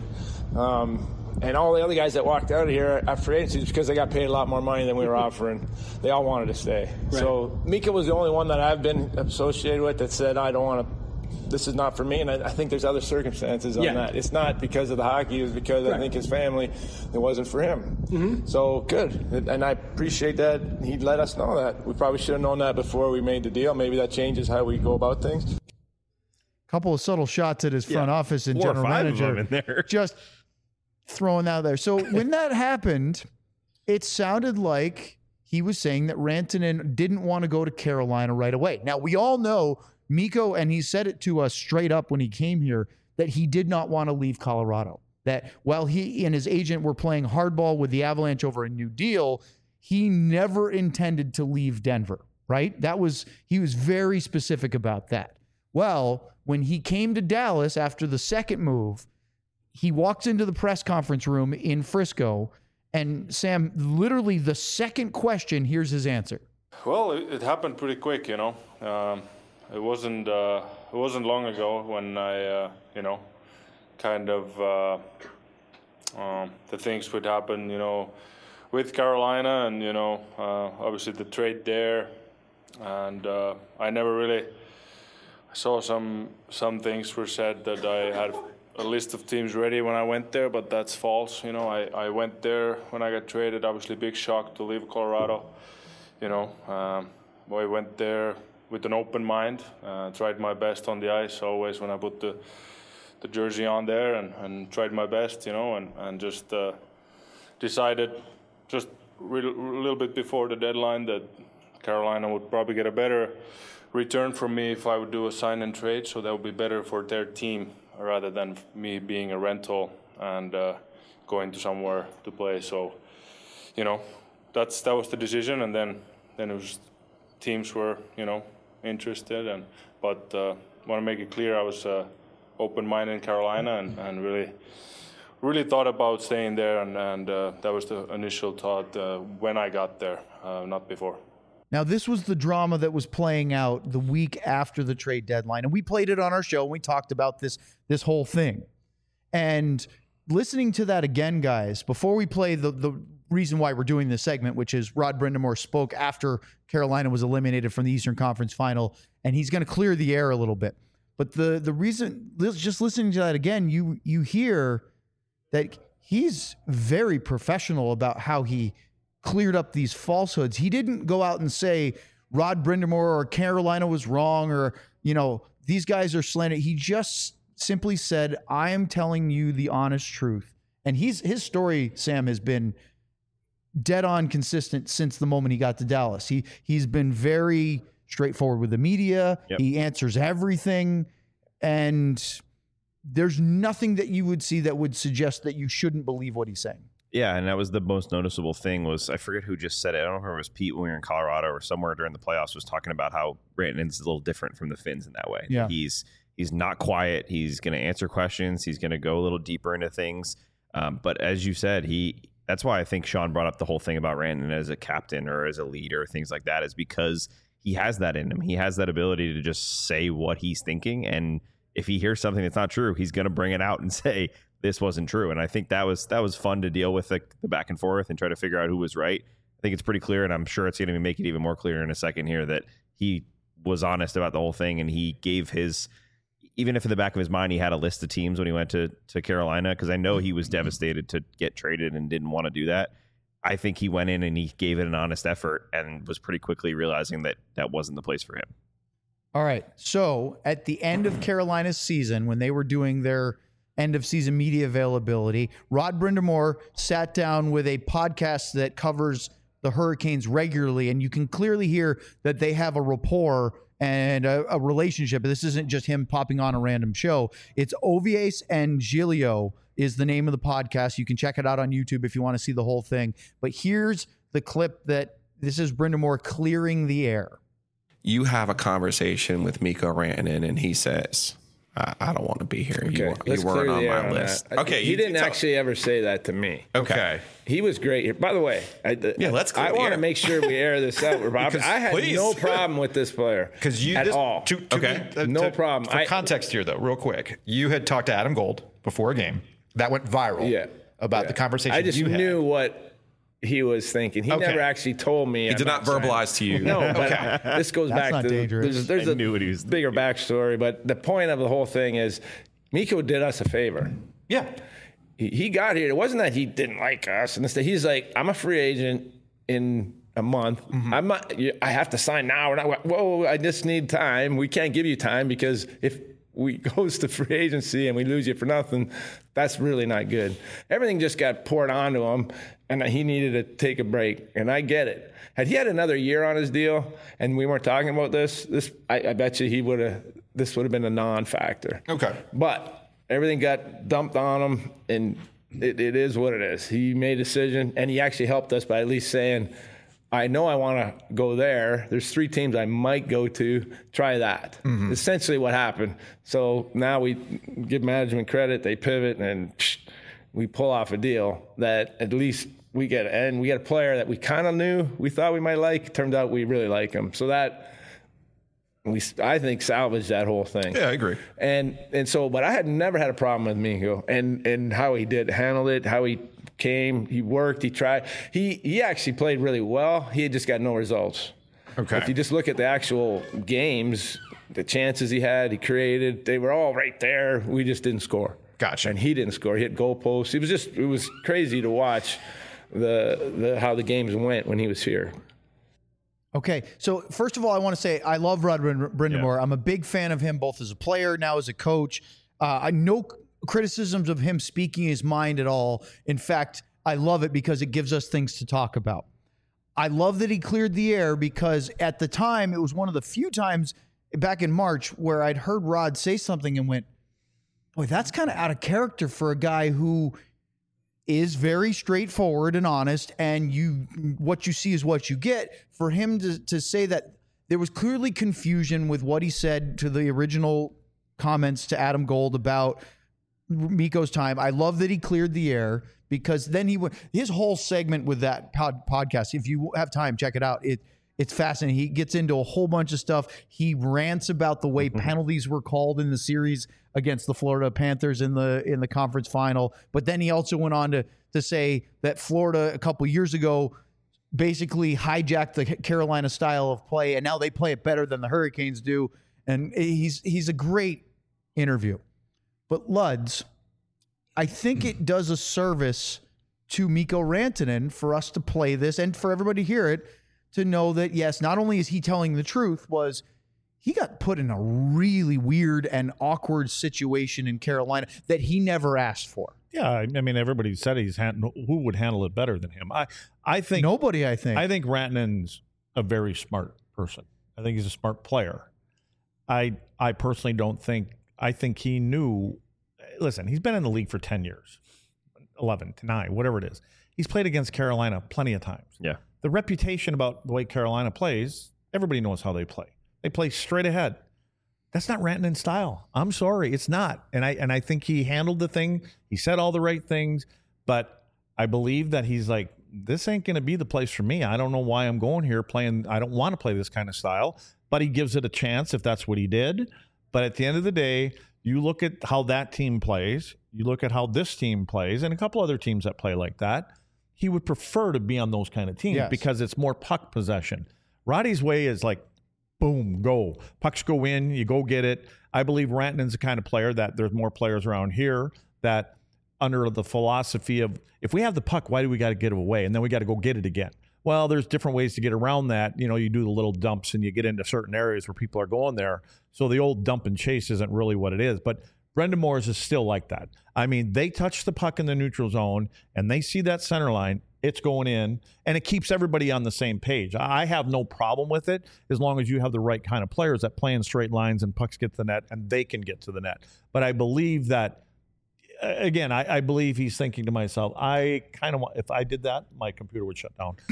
And all the other guys that walked out of here at free agency is because they got paid a lot more money than we were offering. They all wanted to stay. Right. So Mikko was the only one that I've been associated with that said, I don't want to. This is not for me, and I think there's other circumstances on that. It's not because of the hockey. It was because I think his family, it wasn't for him. Mm-hmm. So good, and I appreciate that he let us know that. We probably should have known that before we made the deal. Maybe that changes how we go about things. Couple of subtle shots at his front office and 4 or general 5 manager of them in there. just throwing that out there. So when that happened, it sounded like he was saying that Rantanen didn't want to go to Carolina right away. Now, we all know Mikko, and he said it to us straight up when he came here, that he did not want to leave Colorado. that while he and his agent were playing hardball with the Avalanche over a new deal, he never intended to leave Denver, right? He was very specific about that. Well, when he came to Dallas after the second move, he walks into the press conference room in Frisco, and Sam, literally the second question, here's his answer. Well, it happened pretty quick, you know. It wasn't long ago when I, kind of the things would happen, with Carolina, and obviously the trade there, and I never really saw some things were said that I had a list of teams ready when I went there, but that's false. I went there when I got traded. Obviously, big shock to leave Colorado. I went there with an open mind. Tried my best on the ice always when I put the jersey on there, and tried my best. And just decided just a little bit before the deadline that Carolina would probably get a better return from me if I would do a sign and trade. So that would be better for their team rather than me being a rental and going to somewhere to play. So, that was the decision, and then it was teams were interested, but want to make it clear I was open-minded in Carolina and really thought about staying there, and that was the initial thought when I got there, not before. Now, this was the drama that was playing out the week after the trade deadline, and we played it on our show, and we talked about this whole thing. And listening to that again, guys, before we play the reason why we're doing this segment, which is Rod Brind'Amour spoke after Carolina was eliminated from the Eastern Conference Final, and he's going to clear the air a little bit. But the reason, just listening to that again, you hear that he's very professional about how he cleared up these falsehoods. He didn't go out and say Rod Brind'Amour or Carolina was wrong, or, these guys are slanted. He just simply said, I am telling you the honest truth. And his story, Sam, has been dead on consistent since the moment he got to Dallas. He's been very straightforward with the media. Yep. He answers everything. And there's nothing that you would see that would suggest that you shouldn't believe what he's saying. Yeah, and that was the most noticeable thing was, I forget who just said it. I don't know if it was Pete when we were in Colorado or somewhere during the playoffs, was talking about how Rantanen's a little different from the Finns in that way. Yeah. He's not quiet. He's going to answer questions. He's going to go a little deeper into things. But as you said, that's why I think Sean brought up the whole thing about Rantanen as a captain or as a leader, things like that, is because he has that in him. He has that ability to just say what he's thinking. And if he hears something that's not true, he's going to bring it out and say, this wasn't true. And I think that was fun to deal with, the back and forth and try to figure out who was right. I think it's pretty clear, and I'm sure it's going to make it even more clear in a second here, that he was honest about the whole thing, and he gave his, even if in the back of his mind he had a list of teams when he went to Carolina, because I know he was devastated to get traded and didn't want to do that. I think he went in and he gave it an honest effort and was pretty quickly realizing that that wasn't the place for him. All right. So at the end of Carolina's season, when they were doing their end of season media availability, Rod Brind'Amour sat down with a podcast that covers the Hurricanes regularly, and you can clearly hear that they have a rapport and a relationship. This isn't just him popping on a random show. It's Ovies and Giglio is the name of the podcast. You can check it out on YouTube if you want to see the whole thing. But here's the clip that this is Brind'Amour clearing the air. You have a conversation with Mikko Rantanen, and he says, I don't want to be here. Okay, you weren't on my list. Okay, he didn't actually ever say that to me. Okay. He was great here. By the way, let's I want to make sure we air this out, Rob. I had no problem with this player at all. No problem. For context here, though, real quick, you had talked to Adam Gold before a game. That went viral about the conversation I just you had. knew what he was thinking. He never actually told me. He did not verbalize to you. No, but this goes back to dangerous. There's a bigger backstory, but the point of the whole thing is Mikko did us a favor. Yeah. He got here. It wasn't that he didn't like us. And he's like, I'm a free agent in a month. Mm-hmm. I have to sign now. Whoa, I just need time. We can't give you time because if we goes to free agency and we lose you for nothing, that's really not good. Everything just got poured onto him, and he needed to take a break, and I get it. Had he had another year on his deal and we weren't talking about this I bet you this would have been a non-factor. Okay. But everything got dumped on him, and it is what it is. He made a decision, and he actually helped us by at least saying, I know I want to go there. There's 3 teams I might go to. Try that. Essentially what happened. So now we give management credit. They pivot, and we pull off a deal that at least we get. And we got a player that we kind of knew we thought we might like. Turned out we really like him. So that I think salvaged that whole thing. Yeah, I agree. And so, but I had never had a problem with Mikko and how he handled it, how he came, he worked, he tried. He actually played really well. He had just got no results. Okay. If you just look at the actual games, the chances he had, he created, they were all right there. We just didn't score. Gotcha. And he didn't score. He hit goalposts. It was crazy to watch how the games went when he was here. Okay, so first of all, I want to say I love Rod Brind'Amour. I'm a big fan of him, both as a player, now as a coach. No criticisms of him speaking his mind at all. In fact, I love it because it gives us things to talk about. I love that he cleared the air because at the time, it was one of the few times back in March where I'd heard Rod say something and went, boy, that's kind of out of character for a guy who is very straightforward and honest, and what you see is what you get. For him to say that there was clearly confusion with what he said to the original comments to Adam Gold about Mikko's time. I love that he cleared the air because then his whole segment with that podcast, if you have time, check it out. It's fascinating. He gets into a whole bunch of stuff. He rants about the way penalties were called in the series against the Florida Panthers in the conference final. But then he also went on to say that Florida a couple years ago basically hijacked the Carolina style of play, and now they play it better than the Hurricanes do. And he's a great interview. But Luds, I think it does a service to Mikko Rantanen for us to play this and for everybody to hear it, to know that, yes, not only is he telling the truth, was he got put in a really weird and awkward situation in Carolina that he never asked for. Yeah, I mean, everybody said who would handle it better than him. I think nobody. I think Rantanen's a very smart person. I think he's a smart player. I personally don't think. I think he knew. Listen, he's been in the league for 10 years, 11 to 9, whatever it is. He's played against Carolina plenty of times. Yeah. The reputation about the way Carolina plays, everybody knows how they play. They play straight ahead. That's not Rantanen's style. I'm sorry, it's not. And I think he handled the thing. He said all the right things, but I believe that he's like, this ain't going to be the place for me. I don't know why I'm going here playing. I don't want to play this kind of style, but he gives it a chance if that's what he did. But at the end of the day, you look at how that team plays, you look at how this team plays, and a couple other teams that play like that. He would prefer to be on those kind of teams because it's more puck possession. Roddy's way is like, boom, go. Pucks go in, you go get it. I believe Rantanen's the kind of player that there's more players around here that under the philosophy of, if we have the puck, why do we got to get it away? And then we got to go get it again. Well, there's different ways to get around that. You know, you do the little dumps and you get into certain areas where people are going there. So the old dump and chase isn't really what it is. But Brind'Amour's is still like that. I mean, they touch the puck in the neutral zone and they see that center line, it's going in, and it keeps everybody on the same page. I have no problem with it as long as you have the right kind of players that play in straight lines and pucks get to the net and they can get to the net. But I believe that, again, I believe he's thinking to myself, I kind of want, if I did that, my computer would shut down.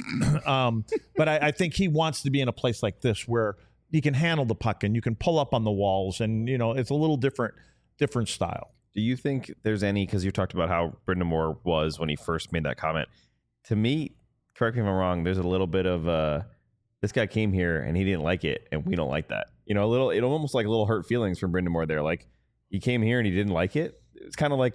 But I think he wants to be in a place like this where he can handle the puck and you can pull up on the walls and, you know, it's a little different style. Do you think there's any, because you talked about how Brind'Amour was when he first made that comment. To me, correct me if I'm wrong, there's a little bit of this guy came here and he didn't like it and we don't like that. You know, it almost like a little hurt feelings from Brind'Amour there. Like, he came here and he didn't like it. It's kind of like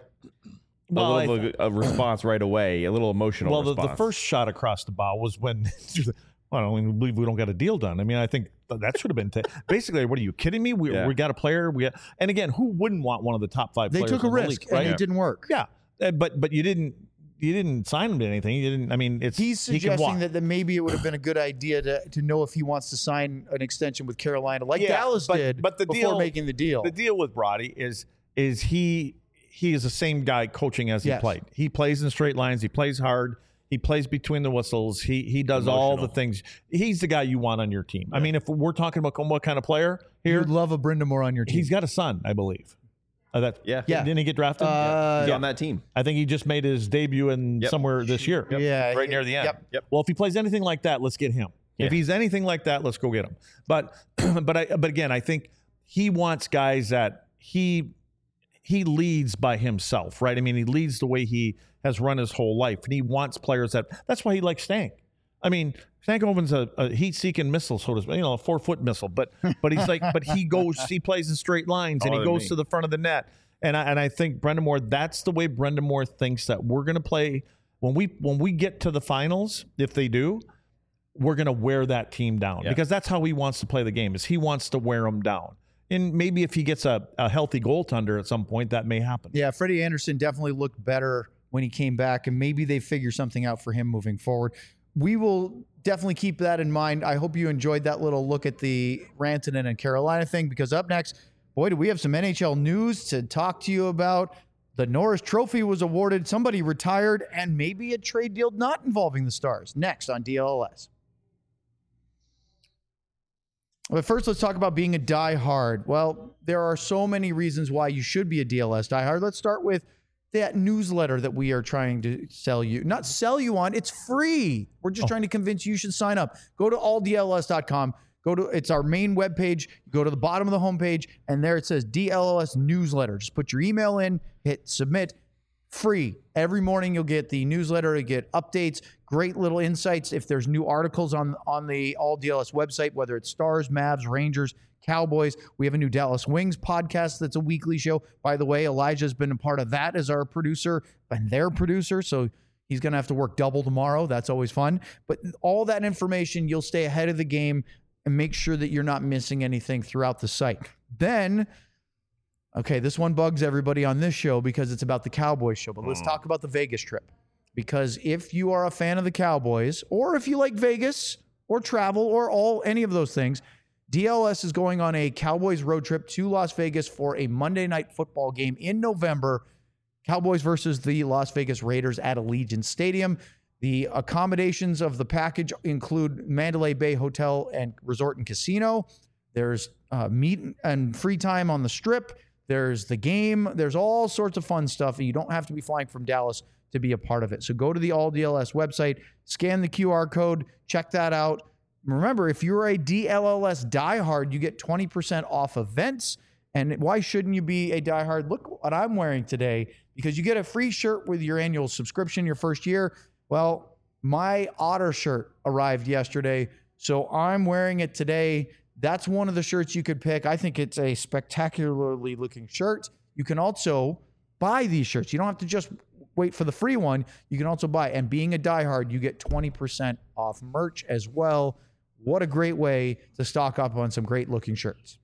a response right away, a little emotional response. Well, the first shot across the bow was when I don't believe we don't got a deal done. I mean, I think that should have been basically. What are you kidding me? We got a player. And again, who wouldn't want one of the top 5 players? They took a risk, league, right? and it didn't work. Yeah, but you didn't sign him to anything. You didn't. I mean, he's suggesting that maybe it would have been a good idea to know if he wants to sign an extension with Carolina, like Dallas did, but before making the deal. The deal with Roddy is he is the same guy coaching as he played. He plays in straight lines. He plays hard. He plays between the whistles. He does all the things. He's the guy you want on your team. Yeah. I mean, if we're talking about what kind of player here, you'd love a Brind'Amour on your team. He's got a son, I believe. Yeah. Didn't he get drafted? He's on that team. I think he just made his debut in somewhere this year. Yeah, Right near the end. Yep. Well, if he plays anything like that, let's get him. Yeah. If he's anything like that, let's go get him. But again, I think he wants guys that he leads by himself, right? I mean, he leads the way he has run his whole life, and he wants players that's why he likes Stank. I mean, Stankoven's a heat-seeking missile, so to speak, a 4-foot missile. But he plays in straight lines, and he goes to the front of the net. And I think Brendan Moore, that's the way Brendan Moore thinks that we're going to play when we get to the finals. If they do, we're going to wear that team down because that's how he wants to play the game. Is he wants to wear them down. And maybe if he gets a healthy goaltender at some point, that may happen. Yeah, Freddie Anderson definitely looked better when he came back, and maybe they figure something out for him moving forward. We will definitely keep that in mind. I hope you enjoyed that little look at the Rantanen and Carolina thing, because up next, boy, do we have some NHL news to talk to you about. The Norris Trophy was awarded, somebody retired, and maybe a trade deal not involving the Stars. Next on DLLS. But first, let's talk about being a diehard. Well, there are so many reasons why you should be a DLS diehard. Let's start with that newsletter that we are trying to sell you. Not sell you on, it's free. We're just trying to convince you should sign up. Go to alldls.com. It's our main webpage. Go to the bottom of the homepage, and there it says DLLS newsletter. Just put your email in, hit submit. Free. Every morning you'll get the newsletter, you get updates, great little insights. If there's new articles on the All DLS website, whether it's Stars, Mavs, Rangers, Cowboys. We have a new Dallas Wings podcast that's a weekly show. By the way, Elijah's been a part of that as our producer and their producer, so he's going to have to work double tomorrow. That's always fun. But all that information, you'll stay ahead of the game and make sure that you're not missing anything throughout the site. Then, okay, this one bugs everybody on this show because it's about the Cowboys show, but let's talk about the Vegas trip. Because if you are a fan of the Cowboys, or if you like Vegas or travel or any of those things, DLS is going on a Cowboys road trip to Las Vegas for a Monday night football game in November. Cowboys versus the Las Vegas Raiders at Allegiant Stadium. The accommodations of the package include Mandalay Bay Hotel and Resort and Casino. There's meet and free time on the Strip. There's the game. There's all sorts of fun stuff. And you don't have to be flying from Dallas to be a part of it. So go to the All DLS website, scan the QR code, check that out. Remember, if you're a DLLS diehard, you get 20% off events. And why shouldn't you be a diehard? Look what I'm wearing today, because you get a free shirt with your annual subscription your first year. Well, my Otter shirt arrived yesterday, so I'm wearing it today. That's one of the shirts you could pick. I think it's a spectacularly looking shirt. You can also buy these shirts. You don't have to just wait for the free one. You can also buy. And being a diehard, you get 20% off merch as well. What a great way to stock up on some great looking shirts.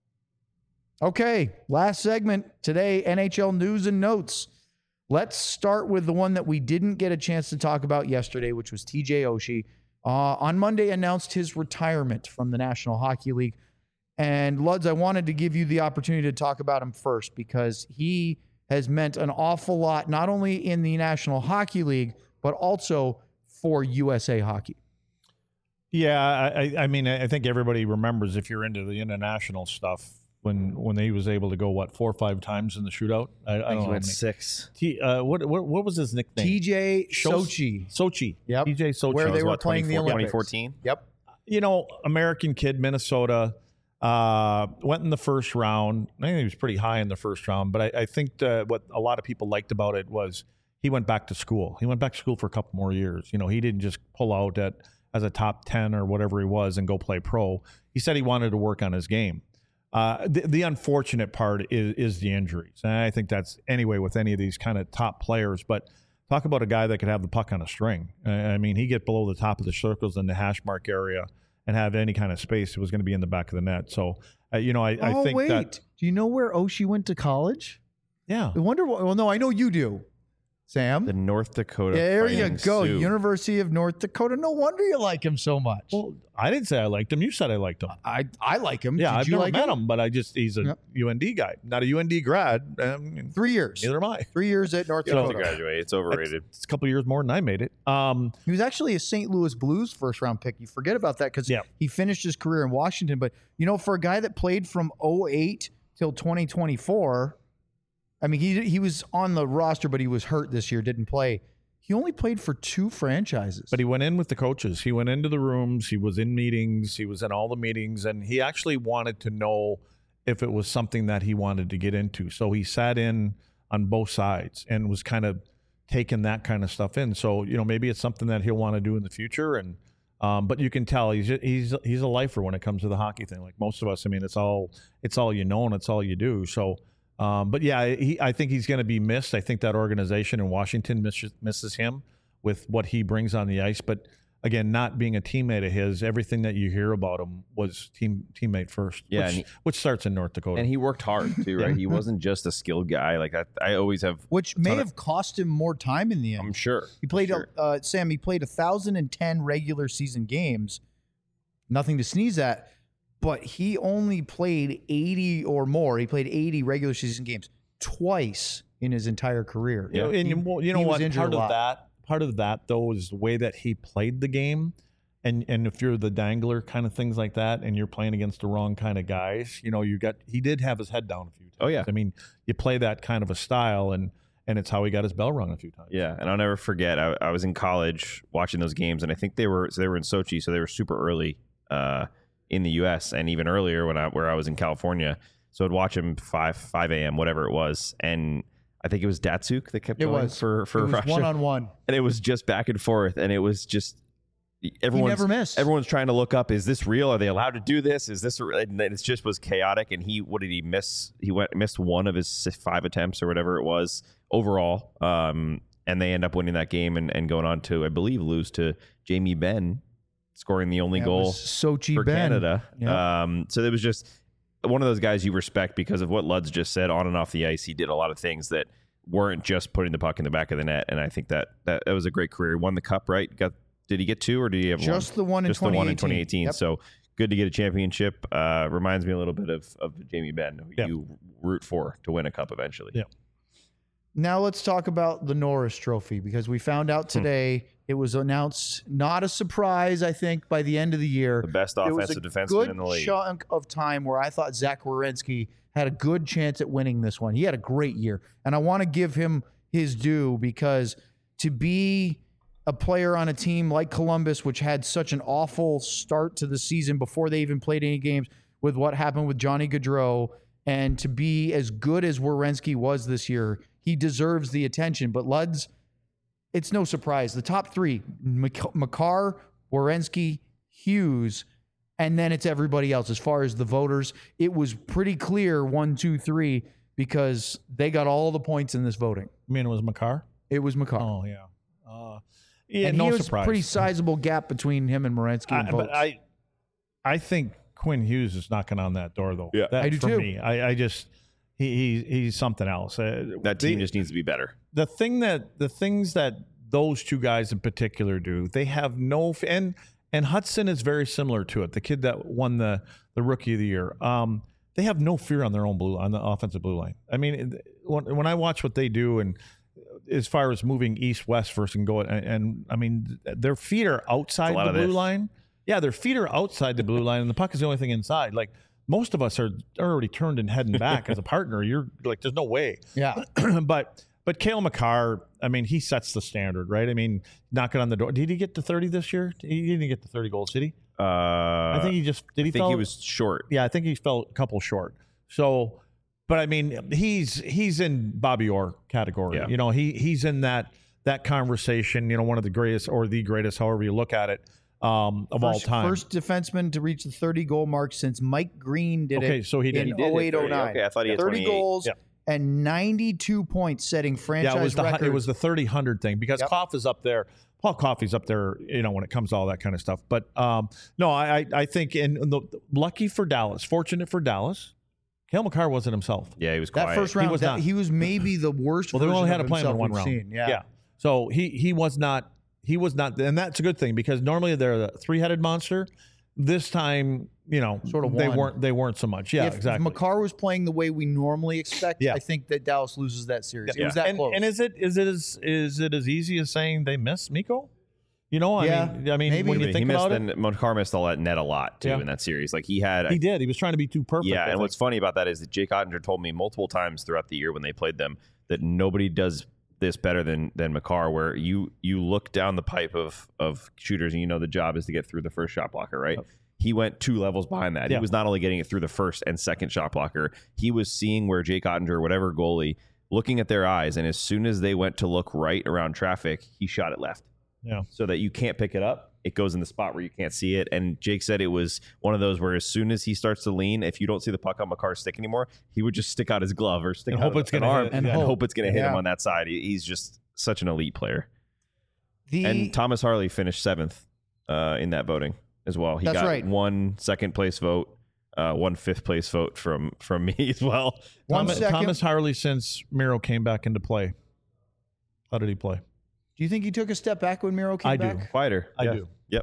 Okay, last segment today, NHL news and notes. Let's start with the one that we didn't get a chance to talk about yesterday, which was TJ Oshie. On Monday, announced his retirement from the National Hockey League. And Luds, I wanted to give you the opportunity to talk about him first, because he has meant an awful lot, not only in the National Hockey League, but also for USA Hockey. Yeah, I mean, I think everybody remembers, if you're into the international stuff, when he was able to go 4 or 5 times in the shootout. I don't know. He went 6. What was his nickname? TJ Sochi. Sochi. Yep. TJ Sochi. Where they were playing the Olympics. 2014. Yep. American kid, Minnesota, went in the first round. I think he was pretty high in the first round, but I think what a lot of people liked about it was he went back to school. He went back to school for a couple more years. He didn't just pull out as a top 10 or whatever he was and go play pro. He said he wanted to work on his game. The unfortunate part is the injuries. And I think that's anyway with any of these kind of top players. But talk about a guy that could have the puck on a string. I mean, he get below the top of the circles in the hash mark area and have any kind of space. It was going to be in the back of the net. So, I think that. Do you know where Oshie went to college? Yeah. I wonder. Well, no, I know you do, Sam. The North Dakota. There you Fighting go. Sioux. University of North Dakota. No wonder you like him so much. Well, I didn't say I liked him. You said I liked him. I like him. Yeah, Did I've you never like met him, but he's a Yep. UND guy, not a UND grad. 3 years. Neither am I. 3 years at North You don't have Dakota. to graduate. It's overrated. It's a couple years more than I made it. He was actually a St. Louis Blues first round pick. You forget about that because he finished his career in Washington. But, for a guy that played from 2008 till 2024, I mean, he was on the roster, but he was hurt this year, didn't play. He only played for 2 franchises. But he went in with the coaches. He went into the rooms. He was in meetings. He was in all the meetings. And he actually wanted to know if it was something that he wanted to get into. So he sat in on both sides and was kind of taking that kind of stuff in. So, maybe it's something that he'll want to do in the future. And but you can tell he's a lifer when it comes to the hockey thing. Like most of us, I mean, it's all you know and it's all you do. So, but yeah, I think he's going to be missed. I think that organization in Washington misses him with what he brings on the ice. But again, not being a teammate of his, everything that you hear about him was teammate first. Yeah, which starts in North Dakota. And he worked hard too, right? He wasn't just a skilled guy. Like I always have, which may have cost him more time in the end. I'm sure he played. Sam, he played 1,010 regular season games. Nothing to sneeze at. But he only played 80 or more. He played 80 regular season games twice in his entire career. Yeah, and you know what? Part of that though is the way that he played the game, and if you're the dangler kind of things like that, and you're playing against the wrong kind of guys, he did have his head down a few times. Oh yeah, I mean, you play that kind of a style, and it's how he got his bell rung a few times. Yeah, and I'll never forget. I was in college watching those games, and I think they were in Sochi, so they were super early. In the U.S. and even earlier where I was in California. So I'd watch him 5 a.m., whatever it was. And I think it was Datsuk that kept going for Russia. One-on-one. And it was just back and forth. And it was just everyone's, he never missed. Everyone's trying to look up, is this real? Are they allowed to do this? Is this and it just was chaotic. And what did he miss? He missed one of his 5 attempts or whatever it was overall. And they end up winning that game and going on to, I believe, lose to Jamie Benn, scoring the only goal Sochi for Ben. Canada. Yep. So it was just one of those guys you respect because of what Luds just said. On and off the ice, he did a lot of things that weren't just putting the puck in the back of the net. And I think that was a great career. He won the cup, right? Did he get 2 or did he have just one? The one in just 2018. The one in 2018. Yep. So good to get a championship. Reminds me a little bit of Jamie Benn, who you root for to win a cup eventually. Yeah. Now let's talk about the Norris Trophy, because we found out today it was announced, not a surprise, I think, by the end of the year. The best offensive defenseman in the league. Good chunk of time where I thought Zach Werenski had a good chance at winning this one. He had a great year, and I want to give him his due, because to be a player on a team like Columbus, which had such an awful start to the season before they even played any games, with what happened with Johnny Gaudreau, and to be as good as Werenski was this year, he deserves the attention. But Luds, it's no surprise. The top 3, Makar, Werenski, Hughes, and then it's everybody else. As far as the voters, it was pretty clear 1, 2, 3, because they got all the points in this voting. You mean it was Makar? It was Makar. Oh, yeah. Yeah, and no he was surprise. A pretty sizable gap between him and Werenski in votes. But I think Quinn Hughes is knocking on that door, though. Yeah, I do for too. Me, I just he's something else. That team just needs to be better. The things that those 2 guys in particular do, they have no and Hudson is very similar to it. The kid that won the Rookie of the Year. They have no fear on their own on the offensive blue line. I mean, when I watch what they do, and as far as moving east-west versus and go, and I mean, their feet are outside the blue line. Yeah, their feet are outside the blue line, and the puck is the only thing inside. Like, most of us are already turned and heading back as a partner. You're like, there's no way. Yeah. But Cale Makar, I mean, he sets the standard, right? I mean, knocking on the door. Did he get to 30 this year? He didn't get to 30 goals, did he? I think he just did. He he was short. Yeah, I think he fell a couple short. So, but I mean, he's in Bobby Orr category. Yeah. You know, he's in that conversation. You know, one of the greatest or the greatest, however you look at it, of all time. First defenseman to reach the 30-goal mark since Mike Green did it. Okay, so he did. In He did 08-09. Okay, I thought he had 30 goals. Yeah. And 92 points, setting franchise record. It was the 30-100 thing, because Koff is up there. Paul Coffey's up there, you know, when it comes to all that kind of stuff. But no, I think, lucky for Dallas, fortunate for Dallas, Cale Makar wasn't himself. Yeah, he was quiet. That first round, was not. He was maybe the worst. Well, they only had to to play him in one round. Seen. Yeah. So he was not. He was not, and that's a good thing, because normally they're the 3-headed monster. This time, you know, Sort of they weren't so much. Yeah, exactly. If Makar was playing the way we normally expect, Yeah. I think that Dallas loses that series. Yeah. It was that close. And is it as easy as saying they miss Mikko? You know, I mean, maybe. when you think about it, Makar missed all that net a lot too in that series. Like he did. He was trying to be too perfect. Yeah, and what's funny about that is that Jake Ottinger told me multiple times throughout the year when they played them that nobody does this better than Makar, where you look down the pipe of shooters and you know the job is to get through the first shot blocker, right? Yep. He went 2 levels behind that. He was not only getting it through the first and second shot blocker, he was seeing where Jake Ottinger or whatever goalie, looking at their eyes, and as soon as they went to look right around traffic, he shot it left. Yeah. So that you can't pick it up. It goes in the spot where you can't see it. And Jake said it was one of those where as soon as he starts to lean, if you don't see the puck on Makar's stick anymore, he would just stick out his glove or stick out an arm and hope it's going to hit him on that side. He's just such an elite player. And Thomas Harley finished 7th in that voting as well. He got 1 second place vote, 1 5th place vote from me as well. Thomas Harley, since Miro came back into play, how did he play? Do you think he took a step back when Miro came back? I do. Quieter. I do. Yep.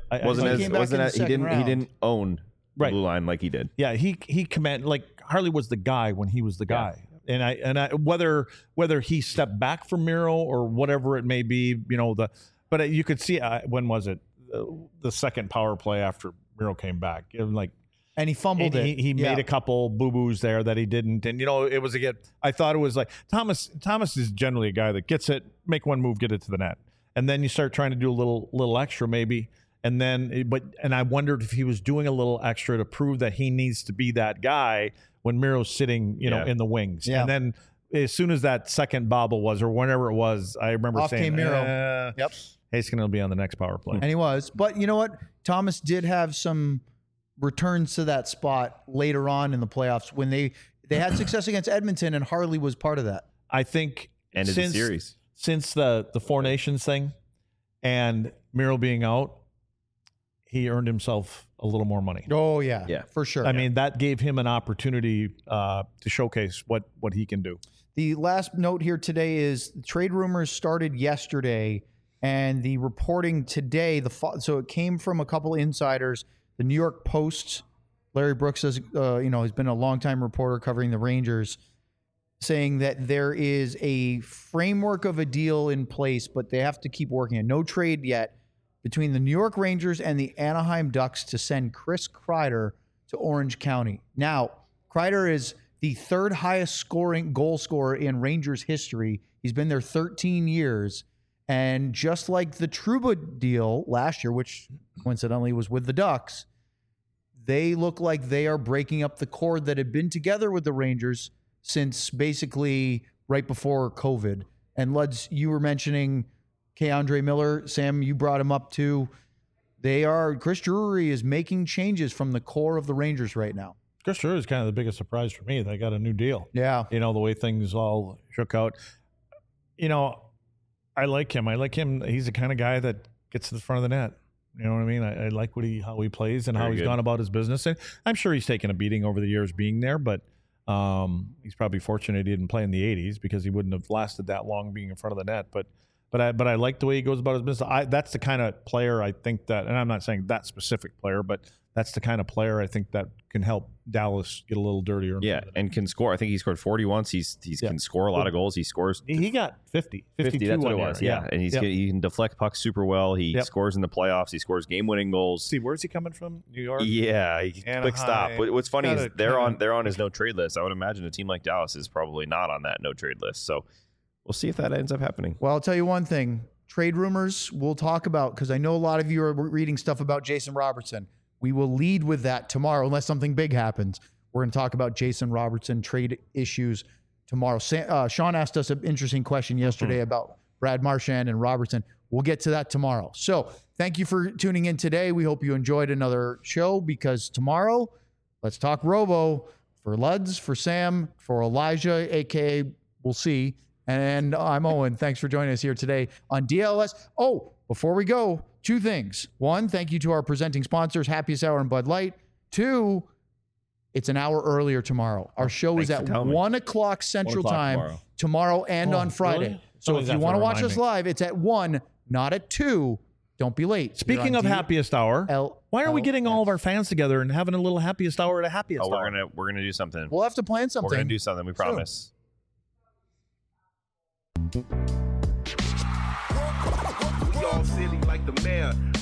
He didn't own the blue line like he did. Yeah, he commanded, like Harley was the guy when he was the guy. And I whether he stepped back from Miro or whatever it may be, but you could see when was it the second power play after Miro came back, and he fumbled it. He made a couple boo-boos there that he didn't. And, it was I thought it was like Thomas is generally a guy that gets it, make one move, get it to the net. And then you start trying to do a little extra maybe. And then, and I wondered if he was doing a little extra to prove that he needs to be that guy when Miro's sitting, in the wings. Yeah. And then as soon as that second bobble was, or whenever it was, I remember saying, came Miro. Yep. He's going to be on the next power play. And he was. But you know what? Thomas did have some returns to that spot later on in the playoffs when they had success against Edmonton, and Harley was part of that. I think end of the series since the Four Nations thing and Miro being out, he earned himself a little more money. Oh yeah, for sure. I mean, that gave him an opportunity to showcase what he can do. The last note here today is trade rumors started yesterday, and the reporting today. So it came from a couple insiders. The New York Post, Larry Brooks has been a longtime reporter covering the Rangers, saying that there is a framework of a deal in place, but they have to keep working it. No trade yet between the New York Rangers and the Anaheim Ducks to send Chris Kreider to Orange County. Now, Kreider is the 3rd highest goal scorer in Rangers history. He's been there 13 years. And just like the Trouba deal last year, which coincidentally was with the Ducks, they look like they are breaking up the cord that had been together with the Rangers since basically right before COVID. And Luds, you were mentioning K'Andre Miller. Sam, you brought him up too. Chris Drury is making changes from the core of the Rangers right now. Chris Drury is kind of the biggest surprise for me. They got a new deal. Yeah. The way things all shook out. I like him. He's the kind of guy that gets to the front of the net. You know what I mean? I like how he plays and how he's gone about his business. And I'm sure he's taken a beating over the years being there, but he's probably fortunate he didn't play in the 80s because he wouldn't have lasted that long being in front of the net. But I like the way he goes about his business. That's the kind of player I think that, and I'm not saying that specific player, but that's the kind of player I think that can help Dallas get a little dirtier. Yeah, and can score. I think he scored 40 once. He can score a lot of goals. He scores. He got 50. 52 that's what it was. Yeah, and he can deflect pucks super well. He scores in the playoffs. He scores game-winning goals. See, where's he coming from? New York? Yeah, quick stop. What's funny is they're on his no-trade list. I would imagine a team like Dallas is probably not on that no-trade list. So we'll see if that ends up happening. Well, I'll tell you one thing. Trade rumors we'll talk about, because I know a lot of you are reading stuff about Jason Robertson. We will lead with that tomorrow unless something big happens. We're going to talk about Jason Robertson trade issues tomorrow. Sean asked us an interesting question yesterday about Brad Marchand and Robertson. We'll get to that tomorrow. So thank you for tuning in today. We hope you enjoyed another show, because tomorrow, let's talk Robo for Luds, for Sam, for Elijah, a.k.a. We'll See. And I'm Owen. Thanks for joining us here today on DLS. Oh, before we go, 2 things. 1, thank you to our presenting sponsors, Happiest Hour and Bud Light. 2, it's an hour earlier tomorrow. Our show is at 1 o'clock Central Time tomorrow and on Friday. Really? So if you want to watch us live, it's at 1, not at 2. Don't be late. Speaking of Happiest Hour, why aren't we getting all of our fans together and having a little Happiest Hour at a Happiest Hour? We're gonna do something. We'll have to plan something. We're gonna do something. We promise. Y'all silly like the mayor.